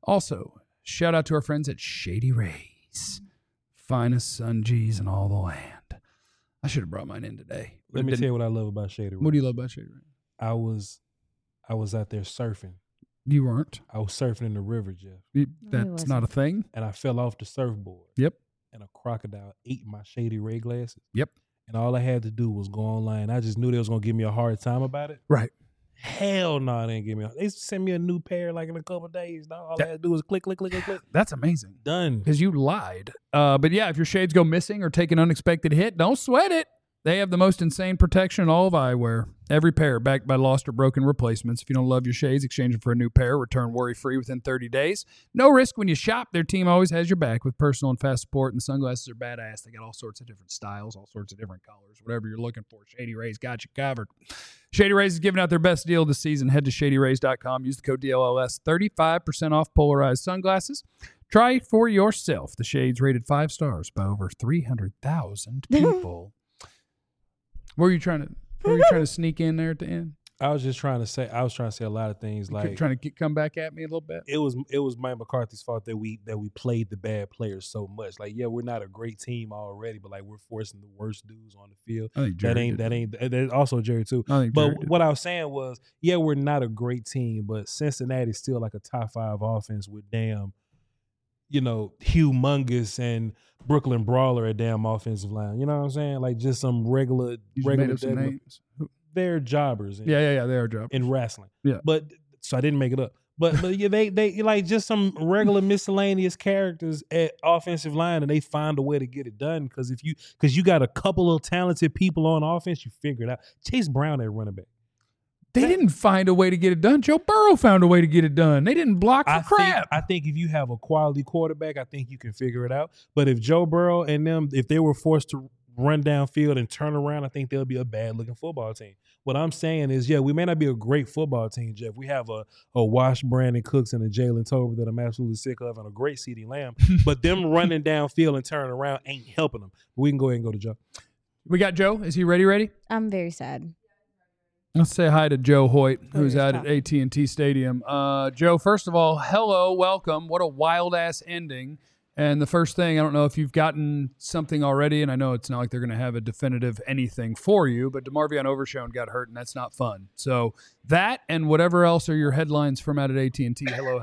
Also, shout out to our friends at Shady Rays. Finest sun G's in all the land. I should have brought mine in today. Let me tell you what I love about Shady Rays. What do you love about Shady Rays? I was out there surfing. You weren't. I was surfing in the river, Jeff. That's not a thing. And I fell off the surfboard. Yep. And a crocodile ate my Shady Ray glasses. Yep. And all I had to do was go online. I just knew they was gonna give me a hard time about it. Right. Hell no, they didn't give me. They sent me a new pair like in a couple of days. All I had to do was click. That's amazing. Done. Because you lied. But yeah, if your shades go missing or take an unexpected hit, don't sweat it. They have the most insane protection in all of eyewear. Every pair backed by lost or broken replacements. If you don't love your shades, exchange them for a new pair. Return worry-free within 30 days. No risk when you shop. Their team always has your back with personal and fast support. And the sunglasses are badass. They got all sorts of different styles, all sorts of different colors. Whatever you're looking for, Shady Rays got you covered. Shady Rays is giving out their best deal this season. Head to ShadyRays.com. Use the code DLLS. 35% off polarized sunglasses. Try it for yourself. The shades rated 5 stars by over 300,000 people. What were you trying to sneak in there at the end? I was trying to say a lot of things. Like trying to come back at me a little bit. It was Mike McCarthy's fault that we played the bad players so much. Like, yeah, we're not a great team already, but like we're forcing the worst dudes on the field. I think Jerry that also Jerry too. What I was saying was, yeah, we're not a great team, but Cincinnati's still like a top 5 offense with damn, humongous and Brooklyn Brawler at damn offensive line. You know what I'm saying? Like just some regular names. They're jobbers. Yeah, they are jobbers in wrestling. Yeah, but so I didn't make it up. But yeah, they like just some regular miscellaneous characters at offensive line, and they find a way to get it done. Because you got a couple of talented people on offense, you figure it out. Chase Brown at running back. They didn't find a way to get it done. Joe Burrow found a way to get it done. They didn't block for crap. I think if you have a quality quarterback, I think you can figure it out. But if Joe Burrow and them, if they were forced to run downfield and turn around, I think they'll be a bad-looking football team. What I'm saying is, yeah, we may not be a great football team, Jeff. We have a Wash Brandon Cooks and a Jalen Tolbert that I'm absolutely sick of and a great CeeDee Lamb. But them running downfield and turning around ain't helping them. We can go ahead and go to Joe. We got Joe. Is he ready? I'm very sad. Let's say hi to Joe Hoyt, who's out at AT&T Stadium. Joe, first of all, hello, welcome. What a wild-ass ending. And the first thing, I don't know if you've gotten something already, and I know it's not like they're going to have a definitive anything for you, but DeMarvion Overshown got hurt, and that's not fun. So that and whatever else are your headlines from out at AT&T. Hello.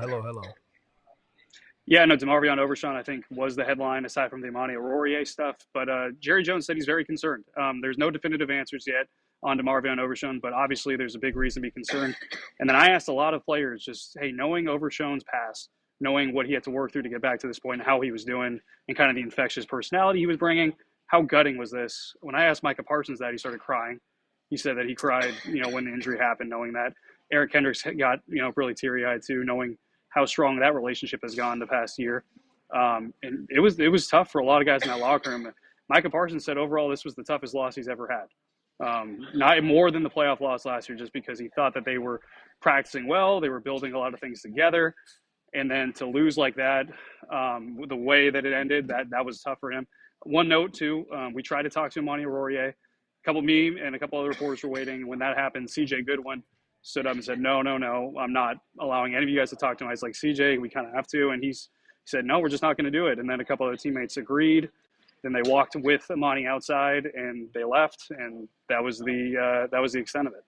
Yeah, no, DeMarvion Overshown, I think, was the headline, aside from the Amani Oruwariye stuff. But Jerry Jones said he's very concerned. There's no definitive answers yet on DeMarvion Overshown, but obviously there's a big reason to be concerned. And then I asked a lot of players just, hey, knowing Overshown's past, knowing what he had to work through to get back to this point and how he was doing and kind of the infectious personality he was bringing, how gutting was this? When I asked Micah Parsons that, he started crying. He said that he cried, when the injury happened, knowing that. Eric Kendricks got, really teary-eyed too, knowing how strong that relationship has gone the past year. And it was tough for a lot of guys in that locker room. Micah Parsons said overall this was the toughest loss he's ever had. Not more than the playoff loss last year, just because he thought that they were practicing well, they were building a lot of things together, and then to lose like that, the way that it ended, that was tough for him. One note too, we tried to talk to Amani Oruwariye. Me and a couple other reporters were waiting. When that happened, CJ Goodwin stood up and said, no, I'm not allowing any of you guys to talk to him. I was like, CJ, we kind of have to, and he said, no, we're just not going to do it. And then a couple other teammates agreed. Then they walked with Amani outside and they left, and that was the extent of it.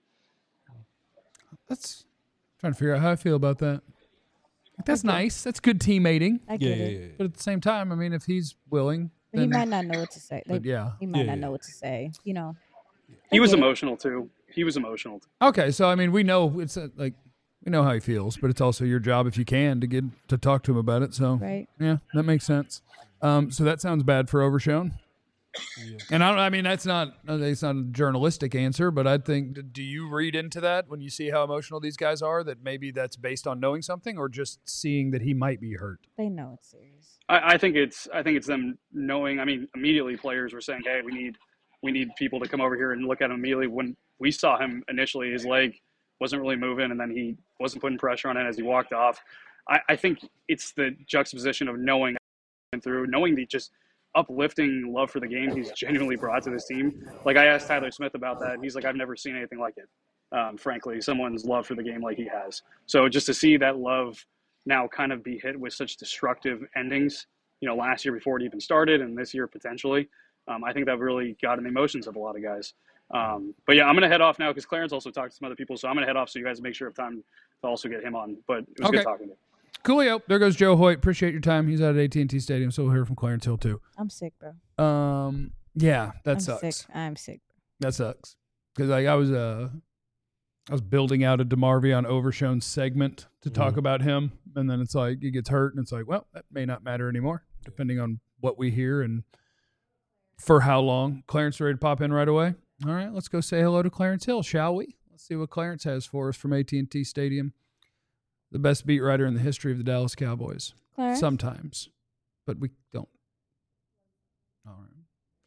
That's trying to figure out how I feel about that. That's nice. That's good teammating. I get it. But at the same time, I mean, if he's willing, then, he might not know what to say. But yeah, he might not know what to say. He was emotional too. Okay, so I mean, we know it's we know how he feels, but it's also your job if you can to get to talk to him about it. So right. Yeah, that makes sense. So that sounds bad for Overshown. Yeah. And that's not a journalistic answer, but I think, do you read into that when you see how emotional these guys are, that maybe that's based on knowing something or just seeing that he might be hurt? They know it's serious. I think it's them knowing. I mean, immediately players were saying, hey, we need people to come over here and look at him immediately. When we saw him initially, his leg wasn't really moving, and then he wasn't putting pressure on it as he walked off. I think it's the juxtaposition of knowing the just uplifting love for the game he's genuinely brought to this team. Like, I asked Tyler Smith about that, and he's like, I've never seen anything like it. Frankly, someone's love for the game like he has. So just to see that love, now kind of be hit with such destructive endings, last year before it even started and this year potentially. I think that really got in the emotions of a lot of guys. But yeah, I'm going to head off now because Clarence also talked to some other people. So I'm going to head off so you guys make sure of time to also get him on. But it was good talking to you. Coolio. There goes Joe Hoyt. Appreciate your time. He's out at AT&T Stadium, so we'll hear from Clarence Hill too. I'm sick, bro. Yeah, that sucks. I'm sick. That sucks. Because I was building out a DeMarvion Overshown segment to talk about him, and then it's like he gets hurt, and it's like, well, that may not matter anymore, depending on what we hear and for how long. Clarence ready to pop in right away? All right, let's go say hello to Clarence Hill, shall we? Let's see what Clarence has for us from AT&T Stadium. The best beat writer in the history of the Dallas Cowboys. Clarence? Sometimes, but we don't. All right.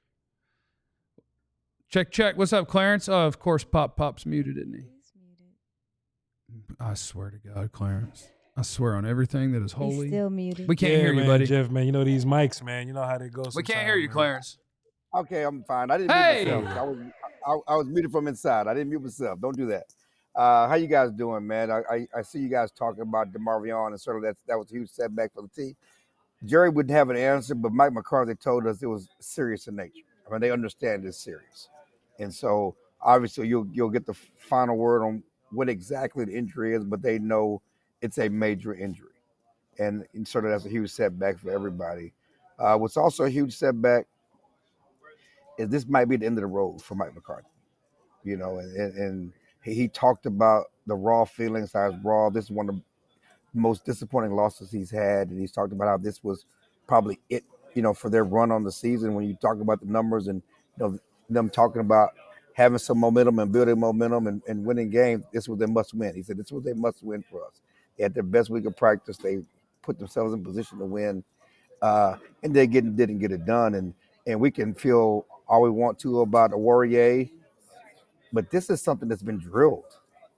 Check. What's up, Clarence? Oh, of course, Pop's muted, isn't he? He's muted. I swear to God, Clarence. I swear on everything that is holy. He's still muted. We can't hear you, man, buddy. Jeff, man, these mics, man. You know how they go. We can't hear you, man. Clarence. Okay, I'm fine. I didn't mute myself. I was muted from inside. I didn't mute myself. Don't do that. How you guys doing, man? I see you guys talking about DeMarvion, and sort of that was a huge setback for the team. Jerry wouldn't have an answer, but Mike McCarthy told us it was serious in nature. I mean, they understand it's serious. And so obviously you'll get the final word on what exactly the injury is, but they know it's a major injury. And sort of that's a huge setback for everybody. What's also a huge setback is this might be the end of the road for Mike McCarthy. And he talked about the raw feelings, how it's raw. This is one of the most disappointing losses he's had. And he's talked about how this was probably it, for their run on the season. When you talk about the numbers and, them talking about having some momentum and building momentum and winning games, this was their must win. He said this was their must win for us. They had their best week of practice. They put themselves in position to win, and they didn't get it done. And we can feel all we want to about Warrior, but this is something that's been drilled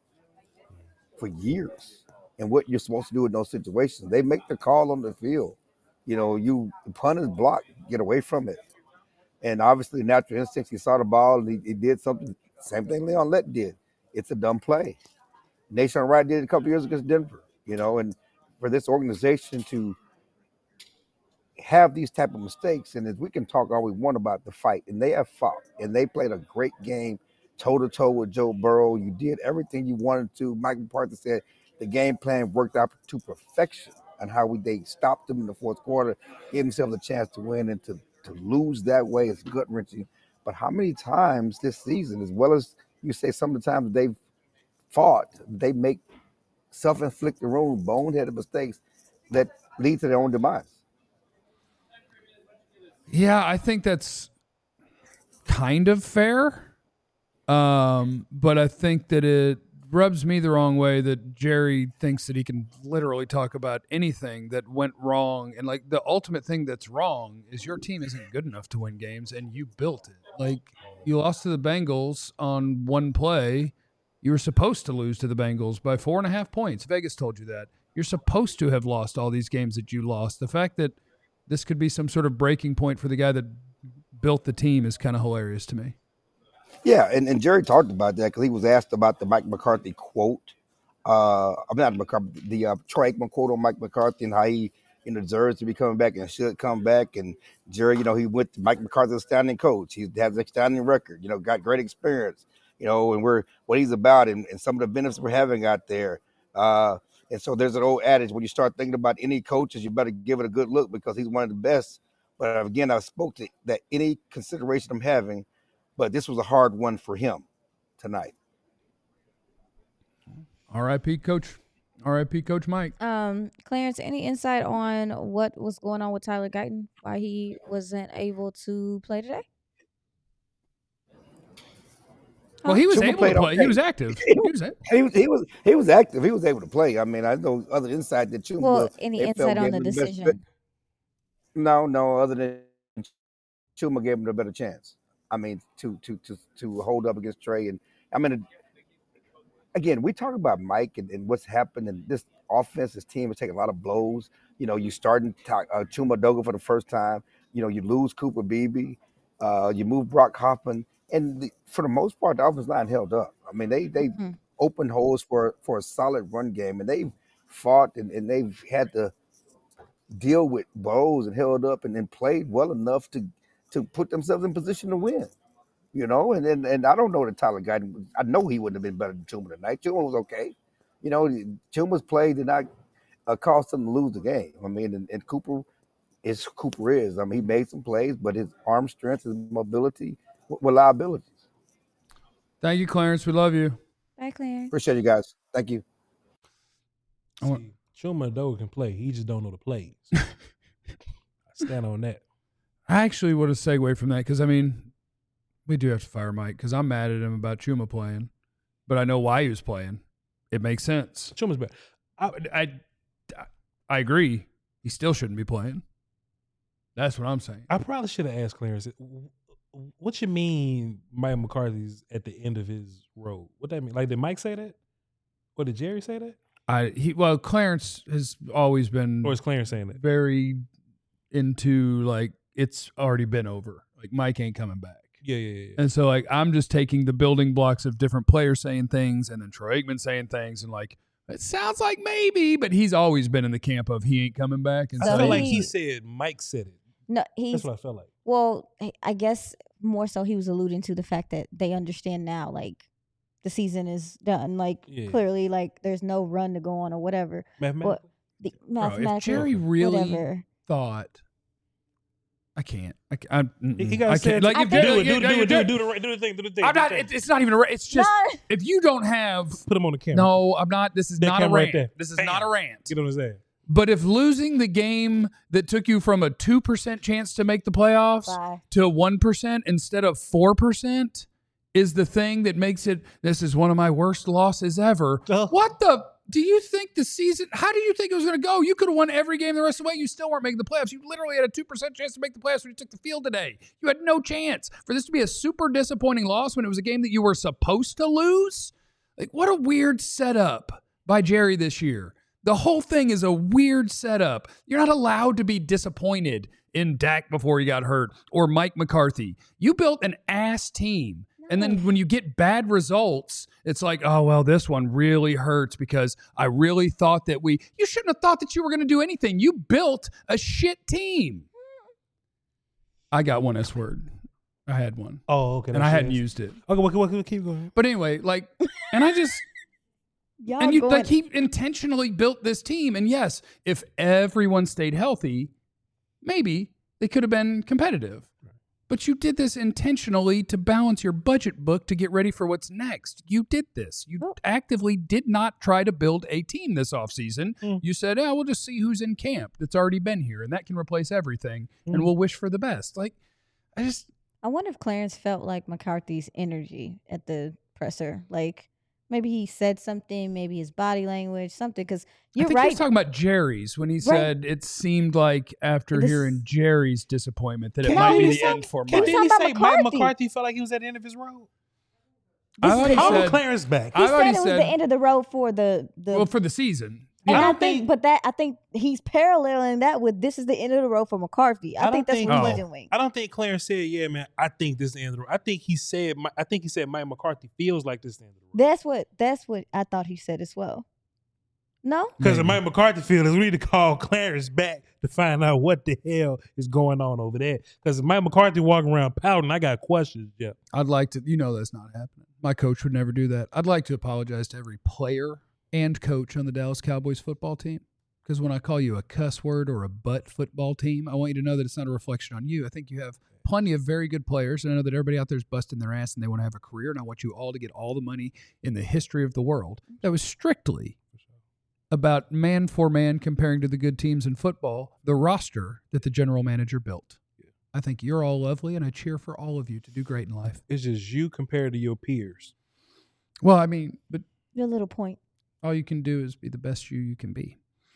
for years. And what you're supposed to do in those situations, they make the call on the field. You punt is blocked, get away from it. And obviously, natural instincts, he saw the ball, and he did something, same thing Leon Lett did. It's a dumb play. Nation Wright did it a couple years against Denver, and for this organization to have these type of mistakes, and as we can talk all we want about the fight, and they have fought, and they played a great game, toe-to-toe with Joe Burrow. You did everything you wanted to. Mike McCarthy said the game plan worked out to perfection, and how they stopped them in the fourth quarter, gave themselves a chance to win, and to lose that way is gut-wrenching. But how many times this season, as well as you say some of the times they've fought, they make self-inflicted boneheaded mistakes that lead to their own demise? Yeah, I think that's kind of fair. But I think that it rubs me the wrong way that Jerry thinks that he can literally talk about anything that went wrong. And like the ultimate thing that's wrong is your team isn't good enough to win games, and you built it. Like you lost to the Bengals on one play. You were supposed to lose to the Bengals by 4.5 points. Vegas told you that. You're supposed to have lost all these games that you lost. The fact that this could be some sort of breaking point for the guy that built the team is kind of hilarious to me. Yeah, and Jerry talked about that because he was asked about the Mike McCarthy quote. I'm not McCarthy, the Troy Aikman quote on Mike McCarthy and how he deserves to be coming back and should come back. And Jerry, he went to Mike McCarthy's outstanding coach. He has an outstanding record, got great experience, and we're what he's about and some of the benefits we're having out there. And so there's an old adage, when you start thinking about any coaches, you better give it a good look because he's one of the best. But again, I spoke to that any consideration I'm having, but this was a hard one for him tonight. R.I.P. Coach. R.I.P. Coach Mike. Clarence, any insight on what was going on with Tyler Guyton? Why he wasn't able to play today? Well, he was able to play. He was active. He was active. He was able to play. I mean, I know other insight that Chuma. Well, any insight on the decision? No. Other than Chuma gave him a better chance. I mean, to hold up against Trey, and I mean, again, we talk about Mike and what's happened, and this offense, this team is taking a lot of blows. You starting Chuma Doga for the first time. You lose Cooper Beebe. You move Brock Hoffman. And for the most part, the offensive line held up. I mean, they opened holes for a solid run game, and they've fought and they've had to deal with blows and held up and then played well enough to put themselves in position to win. You know, and I don't know that Tyler Guyton. I know he wouldn't have been better than Chuma tonight. Chuma was okay. You know, Chuma's play did not cost them to lose the game. I mean, and Cooper is. I mean, he made some plays, but his arm strength, his mobility were liabilities. Thank you, Clarence. We love you. Bye, Clarence. Appreciate you guys. Thank you. See, Chuma though can play. He just don't know the plays. I stand on that. I actually would have segued from that because, I mean, we do have to fire Mike because I'm mad at him about Chuma playing, but I know why he was playing. It makes sense. Chuma's bad. I agree. He still shouldn't be playing. That's what I'm saying. I probably should have asked Clarence, what you mean Mike McCarthy's at the end of his road? What that mean? Like, did Mike say that? Or did Jerry say that? Clarence has always been. Or is Clarence saying that? Very into, like, it's already been over. Like, Mike ain't coming back. Yeah. And so, like, I'm just taking the building blocks of different players saying things and then Troy Aikman saying things and, like, it sounds like maybe, but he's always been in the camp of he ain't coming back. And I feel like he said Mike said it. No, that's what I felt like. Well, I guess more so he was alluding to the fact that they understand now, like, the season is done. Like, clearly, like, there's no run to go on or whatever. Mathematical? If Jerry really thought, I can't. He got to say it. Like, do the thing. I'm not. It's not even. It's just if you don't have. Put him on the camera. No, I'm not. This is that not a rant. Right this is not a rant. Get on his ass. But if losing the game that took you from a 2% chance to make the playoffs to 1% instead of 4% is the thing that makes it. This is one of my worst losses ever. What the? Do you think the season, how do you think it was going to go? You could have won every game the rest of the way. You still weren't making the playoffs. You literally had a 2% chance to make the playoffs when you took the field today. You had no chance. For this to be a super disappointing loss when it was a game that you were supposed to lose? Like, what a weird setup by Jerry this year. The whole thing is a weird setup. You're not allowed to be disappointed in Dak before he got hurt or Mike McCarthy. You built an ass team. And then when you get bad results, it's like, oh, well, this one really hurts because I really thought that you shouldn't have thought that you were going to do anything. You built a shit team. I got one S word. I had one. Oh, okay. And I hadn't used it. Okay, well, keep going. But anyway, like, and I just, and you like he intentionally built this team. And yes, if everyone stayed healthy, maybe they could have been competitive. But you did this intentionally to balance your budget book to get ready for what's next. You did this. You actively did not try to build a team this offseason. You said, we'll just see who's in camp that's already been here, and that can replace everything, and we'll wish for the best. Like, I wonder if Clarence felt like McCarthy's energy at the presser. Like, maybe he said something, maybe his body language, something, because you're right. He was talking about Jerry's when he said it seemed like after hearing Jerry's disappointment that it might be the end for Mike. Didn't he say Mike McCarthy felt like he was at the end of his road? I Clarence back. He said it was the end of the road for the for the season. And I think he's paralleling that with this is the end of the road for McCarthy. I think that's what he's doing. I don't think Clarence said, "Yeah, man, I think this is the end of the road." I think he said Mike McCarthy feels like this is the end of the road. That's what I thought he said as well. No, because if Mike McCarthy feels, we need to call Clarence back to find out what the hell is going on over there. Because if Mike McCarthy walking around pouting, I got questions, Jeff. I'd like to. That's not happening. My coach would never do that. I'd like to apologize to every player and coach on the Dallas Cowboys football team. Because when I call you a cuss word or a butt football team, I want you to know that it's not a reflection on you. I think you have plenty of very good players, and I know that everybody out there is busting their ass and they want to have a career, and I want you all to get all the money in the history of the world. That was strictly about man for man comparing to the good teams in football, the roster that the general manager built. I think you're all lovely, and I cheer for all of you to do great in life. It's just you compared to your peers. Well, I mean, but your little point. All you can do is be the best you can be.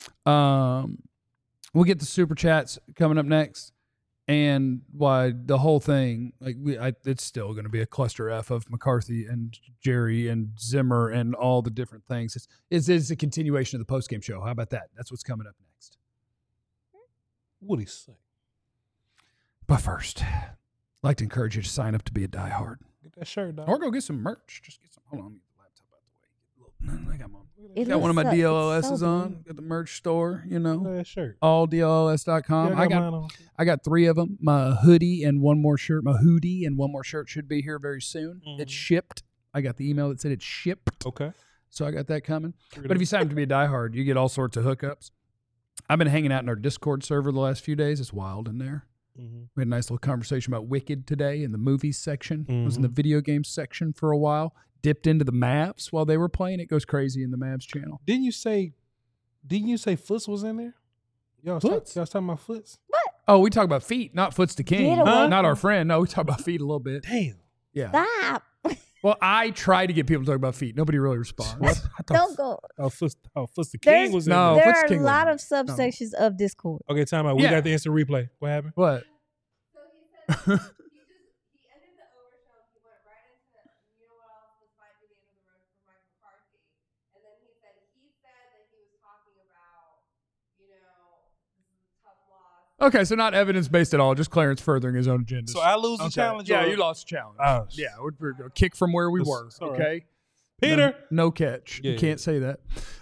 We'll get the super chats coming up next, and why the whole thing, like it's still going to be a cluster F of McCarthy and Jerry and Zimmer and all the different things. It's a continuation of the postgame show. How about that? That's what's coming up next. What'd he say? But first, I'd like to encourage you to sign up to be a diehard. Get that shirt, dog. Or go get some merch. Just get some. Hold on. I got one of my DLLSs on. Got the merch store, That shirt. alldlls.com. I got 3 of them. My hoodie and one more shirt. My hoodie and one more shirt should be here very soon. Mm-hmm. It's shipped. I got the email that said it's shipped. Okay. So I got that coming. But if you sign up to be a diehard, you get all sorts of hookups. I've been hanging out in our Discord server the last few days. It's wild in there. Mm-hmm. We had a nice little conversation about Wicked today in the movies section. Mm-hmm. I was in the video games section for a while. Dipped into the Mavs while they were playing. It goes crazy in the Mavs channel. Didn't you say Foots was in there? Y'all was talking about Foots? What? Oh, we talk about feet, not Foots the King. Not our friend. No, we talk about feet a little bit. Damn. Yeah. Stop. Well, I try to get people to talk about feet. Nobody really responds. Don't go. Foots the King was in there. There are a lot of subsections of Discord. Okay, time out. We got the instant replay. What happened? What? So he said he ended the overshow. He went right into this might be the end of the road for Mike McCarthy. And then he said that he was talking about, this is a tough loss. Okay, so not evidence-based at all, just Clarence furthering his own agenda. So I lose the challenge? Yeah, you lost the challenge. Oh, yeah, we're going to kick from where we were, okay? Peter! No catch. You can't say that.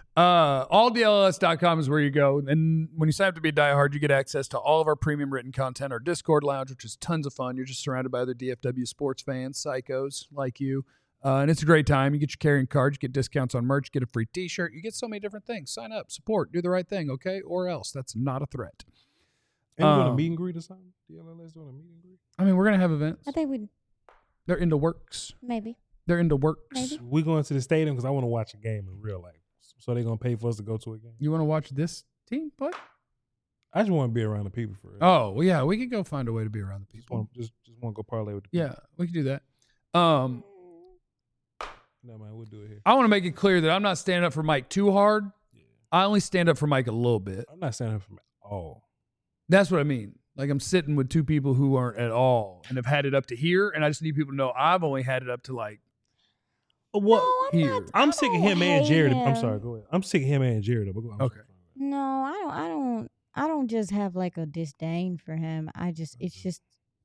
Alldlls.com is where you go. And when you sign up to be a diehard, you get access to all of our premium written content, our Discord lounge, which is tons of fun. You're just surrounded by other DFW sports fans, psychos like you. And it's a great time. You get your carrying cards, you get discounts on merch, get a free t-shirt. You get so many different things. Sign up, support, do the right thing, okay? Or else. That's not a threat. And we're doing a meet and greet or something? DLLS doing a meet and greet? I mean, we're going to have events. I think They're in the works. Maybe. They're in the works. Maybe. We going to the stadium because I want to watch a game in real life. So they're going to pay for us to go to a game. You want to watch this team play? I just want to be around the people for real. Oh, well, yeah. We could go find a way to be around the people. Just want to go parlay with the people. Yeah, we could do that. No, man, we'll do it here. I want to make it clear that I'm not standing up for Mike too hard. Yeah. I only stand up for Mike a little bit. I'm not standing up for Mike at all. That's what I mean. Like, I'm sitting with 2 people who aren't at all and have had it up to here, and I just need people to know I've only had it up to, like, what? No, here. I'm sick of him and Jared. I'm sorry, go ahead. I'm sick of him and Jared. Okay. No, I don't just have like a disdain for him. It's just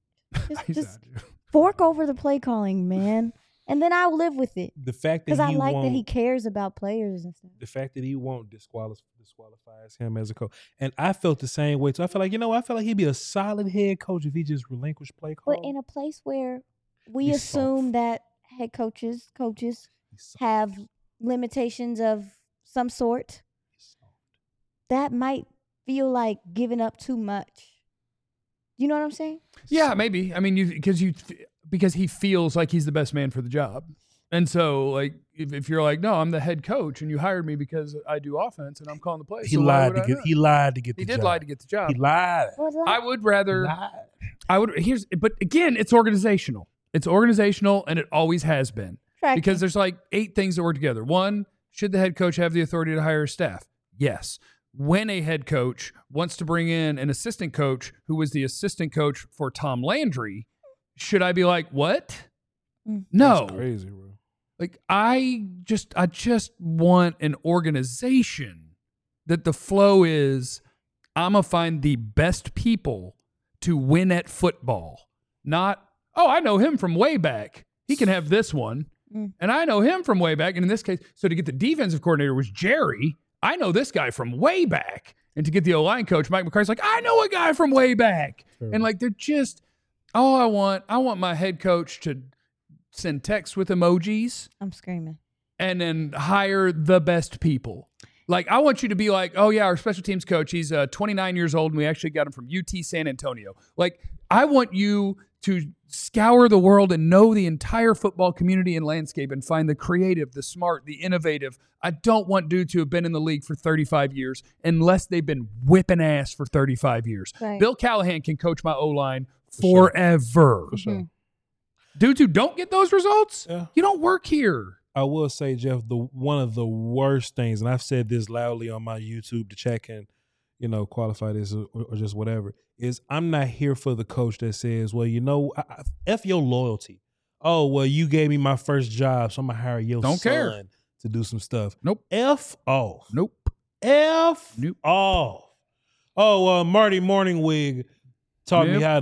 fork over the play calling, man. And then I'll live with it. The fact that because I like that he cares about players and stuff. The fact that he won't disqualifies him as a coach, and I felt the same way too. I feel like I feel like he'd be a solid head coach if he just relinquished play calling. But in a place where we assume that head coaches have limitations of some sort, that might feel like giving up too much. You know what I'm saying? Yeah, maybe. I mean, because he feels like he's the best man for the job. And so, like, if you're like, no, I'm the head coach, and you hired me because I do offense and I'm calling the plays. He lied to get the job. He did lie to get the job. He lied. I would rather. But again, it's organizational. It's organizational, and it always has been. Because there's like 8 things that work together. 1, should the head coach have the authority to hire a staff? Yes. When a head coach wants to bring in an assistant coach who was the assistant coach for Tom Landry, should I be like, what? No. That's crazy, bro. Like, I just want an organization that the flow is, I'm going to find the best people to win at football. Not, I know him from way back. He can have this one. And I know him from way back. And in this case, so to get the defensive coordinator was Jerry. I know this guy from way back. And to get the O-line coach, Mike McCarthy's like, I know a guy from way back. Sure. And like, they're just, I want my head coach to send texts with emojis. I'm screaming. And then hire the best people. Like, I want you to be like, oh yeah, our special teams coach, he's 29 years old, and we actually got him from UT San Antonio. Like, I want you to scour the world and know the entire football community and landscape and find the creative, the smart, the innovative. I don't want dudes who have been in the league for 35 years unless they've been whipping ass for 35 years. Right. Bill Callahan can coach my O-line forever. For sure. Dudes who don't get those results, you don't work here. I will say, Jeff, one of the worst things, and I've said this loudly on my YouTube to check and, qualify this or just whatever, is I'm not here for the coach that says, well, F your loyalty. Oh, well, you gave me my first job, so I'm going to hire your son to do some stuff. Nope. F off. Nope. F off. Oh, Marty Morningwig taught me how to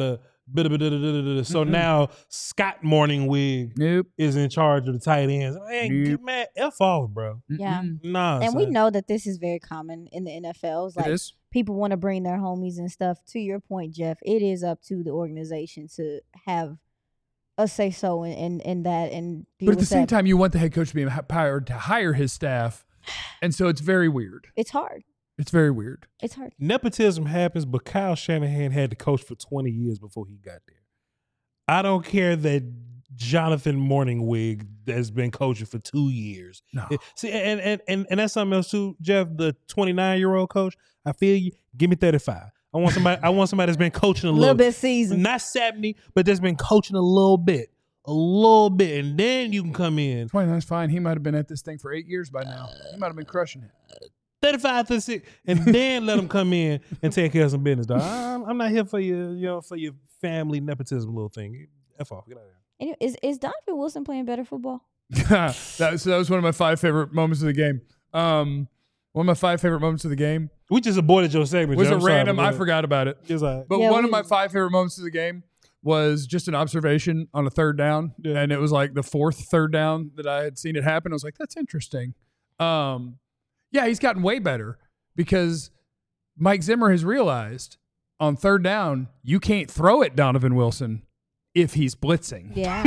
So now Scott Morningwig is in charge of the tight ends. Hey, man, F off, bro. Yeah. Nah, and son. we know that this is very common in the NFL. It's like people want to bring their homies and stuff. To your point, Jeff, it is up to the organization to have a say so in that. But at the same time, you want the head coach to be empowered to hire his staff, and so it's very weird. It's hard. It's very weird. It's hard. Nepotism happens, but Kyle Shanahan had to coach for 20 years before he got there. I don't care that Jonathan Morningwig has been coaching for 2 years. No. See, and that's something else too, Jeff, the 29-year-old coach. I feel you. Give me 35. I want somebody that's been coaching a little bit seasoned. Not 70, but that's been coaching a little bit. And then you can come in. 29's fine. He might have been at this thing for 8 years by now. He might have been crushing it. 35 to 6, and then let them come in and take care of some business, dog. I'm not here for your family nepotism little thing. F off. Get out of here. Is Donovan Wilson playing better football? that was one of my 5 favorite moments of the game. One of my 5 favorite moments of the game. We just aborted your segment. Was a random. I forgot about it. But one of my 5 favorite moments of the game was just an observation on a third down, and it was like the 4th third down that I had seen it happen. I was like, that's interesting. Yeah, he's gotten way better because Mike Zimmer has realized on third down, you can't throw at Donovan Wilson if he's blitzing. Yeah.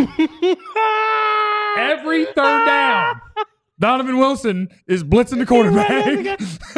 Every third down, Donovan Wilson is blitzing the quarterback.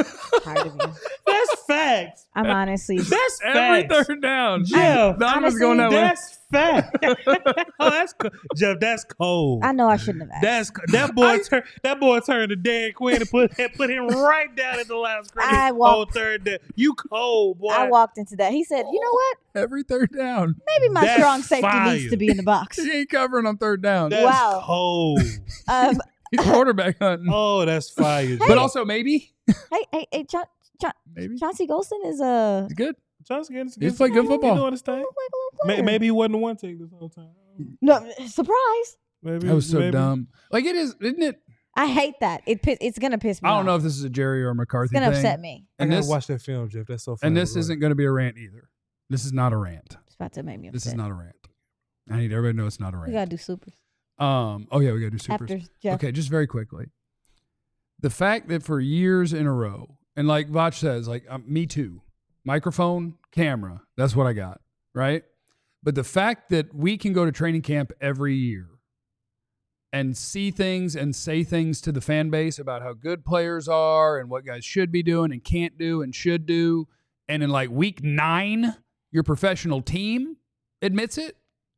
That's facts. I'm honestly. That's every facts. third down. Jeff, Donovan's going that way. That's fact. Oh, that's cool. Jeff, that's cold. I know I shouldn't have asked. That boy turned to Dan Quinn and put him right down at the last scrimmage. Third down. You cold, boy. I walked into that. He said, "You know what? Every third down. Maybe my strong safety needs to be in the box." He ain't covering on third down. That's cold. He's quarterback hunting. Oh, that's fire. Hey. But also maybe. Hey, maybe Chauncey Golston is He's good. He's played good football. He's doing his thing. Maybe he wasn't the one take this whole time. No, surprise. Maybe that was so dumb. Like it is, isn't it? I hate that. It's gonna piss me off. I don't know if this is a Jerry or a McCarthy thing. It's gonna thing. upset me. And I gotta watch that film, Jeff. That's so funny. And this isn't going to be a rant either. This is not a rant. It's about to make me upset. This is not a rant. I need everybody to know it's not a rant. We gotta do supers. Oh yeah, we gotta do supers. After Jeff. Okay, just very quickly. The fact that for years in a row, and like Vach says, like me too, microphone, camera, that's what I got, right? But the fact that we can go to training camp every year and see things and say things to the fan base about how good players are and what guys should be doing and can't do and should do, and in like week 9, your professional team admits it.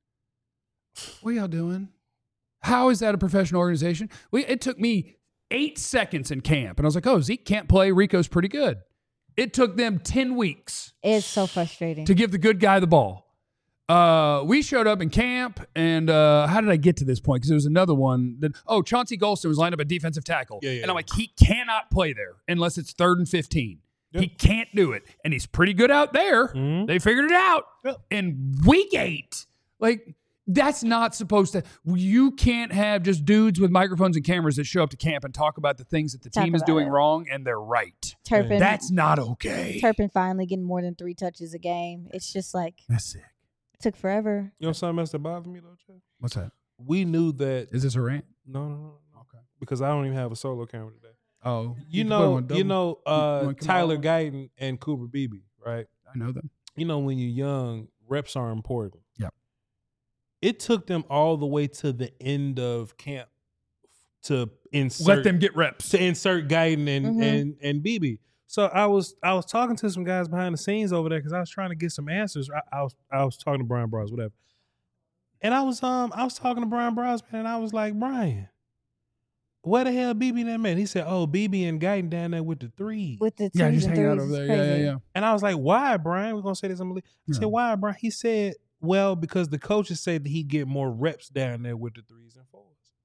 What are y'all doing? How is that a professional organization? It took me 8 seconds in camp, and I was like, oh, Zeke can't play. Rico's pretty good. It took them 10 weeks. It's so frustrating. To give the good guy the ball. We showed up in camp, and how did I get to this point? Because there was another one. Chauncey Golston was lined up at defensive tackle. And I'm like, he cannot play there unless it's 3rd and 15. Yep. He can't do it. And he's pretty good out there. Mm-hmm. They figured it out. Yep. In week 8, like, that's not supposed to. You can't have just dudes with microphones and cameras that show up to camp and talk about the things that the team is doing wrong, and they're right. Turpin, that's not okay. Turpin finally getting more than 3 touches a game. It's just like that's sick. It took forever. You know something else that bothered me though, Jeff? What's that? We knew that. Is this a rant? No. Okay. Because I don't even have a solo camera today. Oh, you know, Tyler Guyton and Cooper Beebe, right? I know them. You know, when you're young, reps are important. Yeah. It took them all the way to the end of camp to insert. Let them get reps. To insert Guyton and Beebe. So I was talking to some guys behind the scenes over there because I was trying to get some answers. I was talking to Brian Bros, whatever. And I was talking to Brian Bros, man, and I was like, Brian, where the hell Beebe and that man? He said, oh, Beebe and Guyton down there with the 3. With the 2s yeah, just and hanging 3s out over there. Yeah. And I was like, why, Brian? We're gonna say this. I said, why, Brian? He said, well, because the coaches said that he'd get more reps down there with the 3s and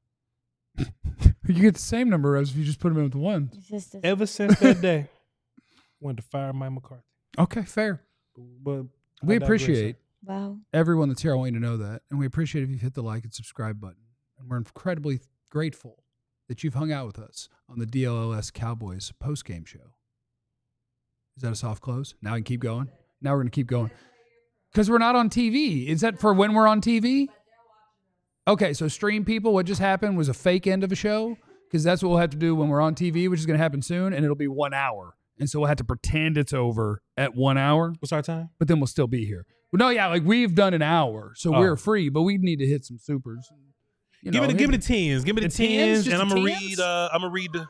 4s. You get the same number of reps if you just put them in with the 1s. Ever since that day, wanted to fire Mike McCarthy. Okay, fair. But we appreciate everyone that's here. I want you to know that. And we appreciate if you hit the like and subscribe button. And we're incredibly grateful that you've hung out with us on the DLLS Cowboys post-game show. Is that a soft close? Now I can keep going? Now we're going to keep going. Because we're not on TV. Is that for when we're on TV? Okay, so stream people, what just happened was a fake end of a show, because that's what we'll have to do when we're on TV, which is going to happen soon, and it'll be 1 hour. And so we'll have to pretend it's over at 1 hour. What's our time? But then we'll still be here. Well, no, yeah, like we've done an hour, so we're free, but we need to hit some supers. Give me the tens. Give me the tens, and I'm gonna read. The.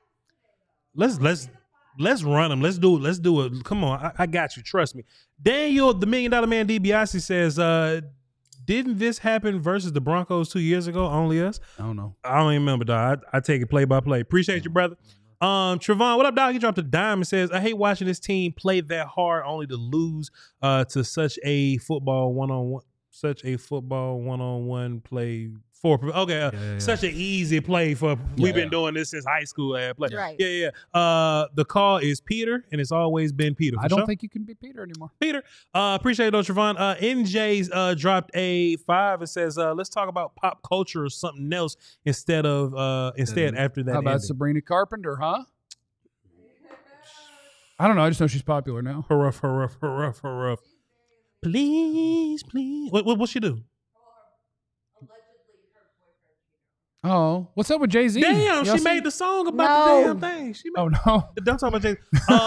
Let's run them. Let's do it. Come on, I got you. Trust me. Daniel, the $1 Million Man DiBiase says, didn't this happen versus the Broncos 2 years ago? Only us? I don't know. I don't even remember, dog. I take it play by play. Appreciate you, brother. Trevon, what up, dog? He dropped a dime and says, I hate watching this team play that hard only to lose to such a football one-on-one play. Such an easy play for. We've been doing this since high school. Play. Right. Yeah. The call is Peter, and it's always been Peter. I don't think you can be Peter anymore. Peter, appreciate it, though, Trevon. NJ's dropped a 5 and says, let's talk about pop culture or something else instead after that. How about Sabrina Carpenter, huh? I don't know. I just know she's popular now. Hurrah. Please. What's she do? Oh, what's up with Jay-Z? Damn, she made the song about the damn thing. Oh, no. Don't talk about Jay-Z.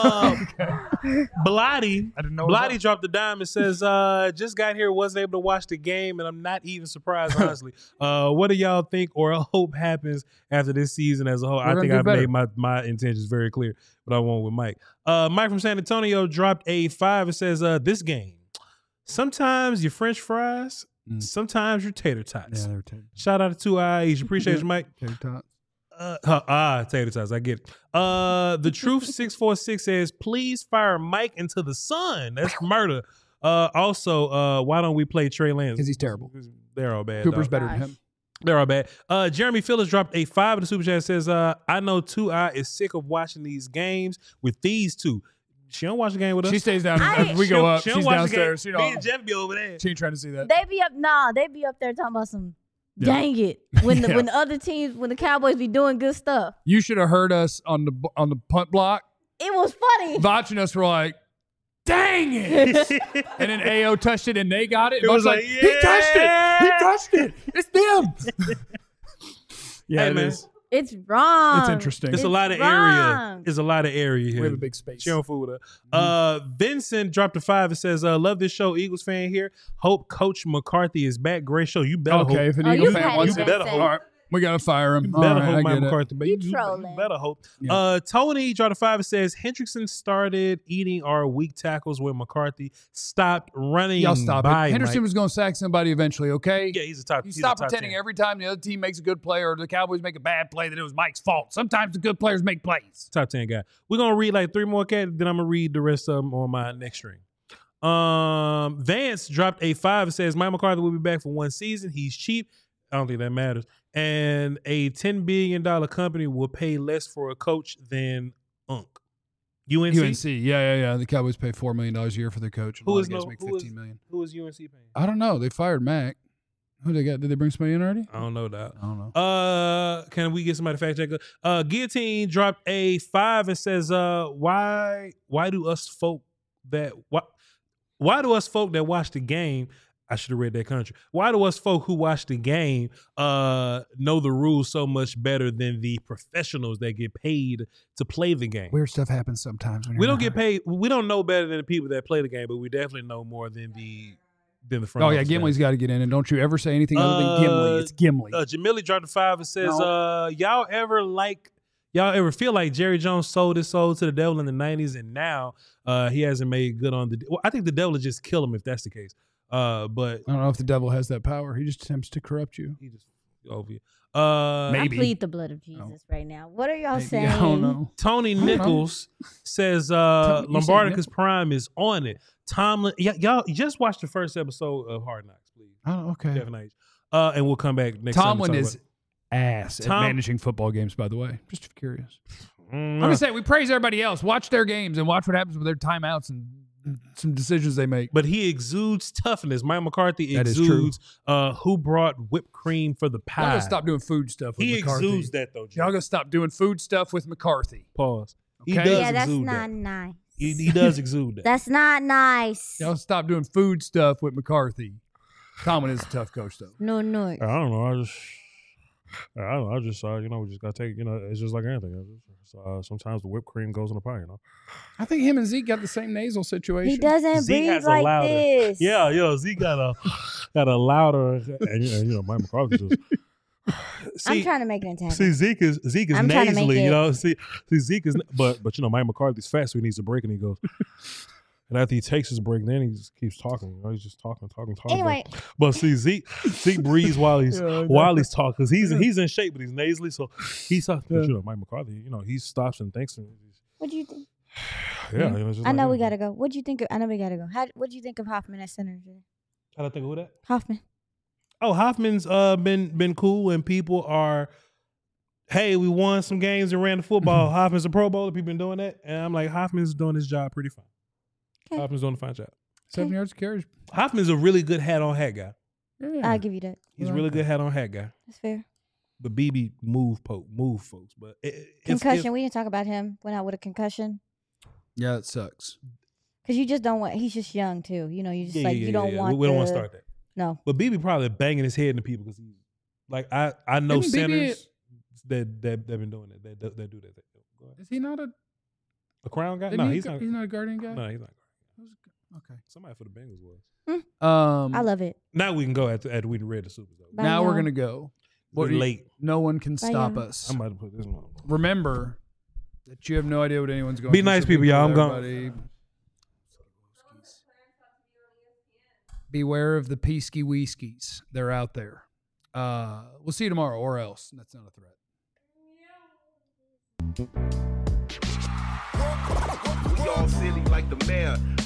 Blotti. I didn't know. Blotti dropped the dime and says, just got here, wasn't able to watch the game, and I'm not even surprised, honestly. What do y'all think or hope happens after this season as a whole? I think I've made my intentions very clear, but I won't with Mike. Mike from San Antonio dropped a 5 and says, this game, sometimes your French fries, sometimes your tater tots. Yeah, they're tater. Shout out to 2 Eyes. Appreciate you, Mike. Tater tots. Tater tots. I get it. The Truth 646 says, please fire Mike into the sun. That's murder. Also, why don't we play Trey Lance? Because he's terrible. They're all bad. Cooper's better than him. They're all bad. Jeremy Phillips dropped a 5 in the super chat. Says, I know 2 Eye is sick of watching these games with these two. She don't watch the game with us. She stays down. As we go up, she's downstairs. Me and Jeff be over there. She ain't trying to see that. They be up there talking about some dang it. When the other teams, when the Cowboys be doing good stuff. You should have heard us on the punt block. It was funny. Watching us were like, dang it. And then AO touched it and they got it. It was like, he touched it. It's them. Yeah, hey, it man. is. It's wrong. It's interesting. It's a lot of area. It's a lot of area here. We have a big space. She don't fool with her. Vincent dropped a 5 and says, love this show. Eagles fan here. Hope Coach McCarthy is back. Great show. You better hope. If an Eagle fan wants you it. better hope. All right. We got to fire him. You better hope Mike McCarthy. But you better hope. Yeah. Tony dropped a 5 and says, Hendrickson started eating our weak tackles when McCarthy stopped running. Y'all stop it. by Henderson Mike. was going to sack somebody eventually, okay? Yeah, he's a top. You he's stop a top pretending 10. every time the other team makes a good play or the Cowboys make a bad play that it was Mike's fault. Sometimes the good players make plays. Top 10 guy. We're going to read like 3 more cats, then I'm going to read the rest of them on my next stream. Vance dropped a 5 and says, Mike McCarthy will be back for 1 season. He's cheap. I don't think that matters. And a $10 billion company will pay less for a coach than UNC. UNC? Yeah. The Cowboys pay $4 million a year for their coach. Who is make $15 million. Who is UNC paying? I don't know. They fired Mac. Who they got? Did they bring somebody in already? I don't know that. I don't know. Can we get somebody to fact check? Guillotine dropped a 5 and says, why do us folk that watch the game? I should have read that country. Why do us folk who watch the game know the rules so much better than the professionals that get paid to play the game? Weird stuff happens sometimes. We don't get paid. We don't know better than the people that play the game, but we definitely know more than the front. Oh yeah, Gimli's got to get in, and don't you ever say anything other than Gimli. It's Gimli. Jamili dropped a 5 and says, y'all ever feel like Jerry Jones sold his soul to the devil in the 90s, and now he hasn't made good on the. Well, I think the devil would just kill him if that's the case. But I don't know if the devil has that power. He just attempts to corrupt you. He just over you. I Maybe. plead the blood of Jesus right now. What are y'all saying? I don't know. Tony Nichols says Lombardica's Prime is on it. Tomlin, y'all just watch the first episode of Hard Knocks, please. Oh, okay. Definitely. And we'll come back next time. Tomlin is ass at managing football games, by the way. Just curious. I'm just saying, we praise everybody else. Watch their games and watch what happens with their timeouts and some decisions they make. But he exudes toughness. Mike McCarthy exudes who brought whipped cream for the pie. Y'all gotta stop doing food stuff with McCarthy. Exudes that though, Jim. Y'all gotta stop doing food stuff with McCarthy. Pause. Okay? He does Yeah, that's exude not that. nice. He does exude that. That's not nice. Y'all stop doing food stuff with McCarthy. Tomlin is a tough coach, though. No. I don't know. I just we just got to take, it's just like anything. Sometimes the whipped cream goes in the pie, I think him and Zeke got the same nasal situation. He doesn't Zeke breathe has like a louder. this. Yeah, Zeke got a louder, and Mike McCarthy just. I'm trying to make it intact. See, Zeke is I'm trying to make nasally, it- See, Zeke is, but Mike McCarthy's fast, so he needs a break, and he goes. And after he takes his break, then he just keeps talking. He's just talking. Anyway. But see, Zeke breathes while he's talking because he's in shape, but he's nasally. So he's talking. But Mike McCarthy, he stops and thinks. What do you think? Yeah, I know we gotta go. What do you think? I know we gotta go. What do you think of Hoffman at center? How do I think of who that? Hoffman. Oh, Hoffman's been cool, and people are. Hey, we won some games and ran the football. Hoffman's a Pro Bowler. People been doing that, and I'm like, Hoffman's doing his job pretty fine. Okay. Hoffman's doing a fine job. 7 yards of carries. Hoffman's a really good hat on hat guy. Yeah. I'll give you that. He's a really good hat on hat guy. That's fair. But BB move folks. But Concussion. We didn't talk about him. Went out with a concussion. Yeah, it sucks. Because you just don't want. He's just young too. You just you don't want. We don't want to start that. No. But BB probably banging his head into people because he's like I know centers that been doing it. That do that. Go ahead. Is he not a crown guy? No, He's not a guardian guy. No, he's not. Okay. Somebody for the Bengals was. I love it. Now we can go after we read the Super Bowl. Bye, Now we're y'all. gonna go. We're late. No one can Bye, stop y'all. us. I'm about to put this one. Remember that you have no idea what anyone's going Be through. nice, So people, cool y'all. with I'm gone. everybody. Beware of the Peasky Weeskies. They're out there. We'll see you tomorrow, or else. That's not a threat. We all silly like the mayor.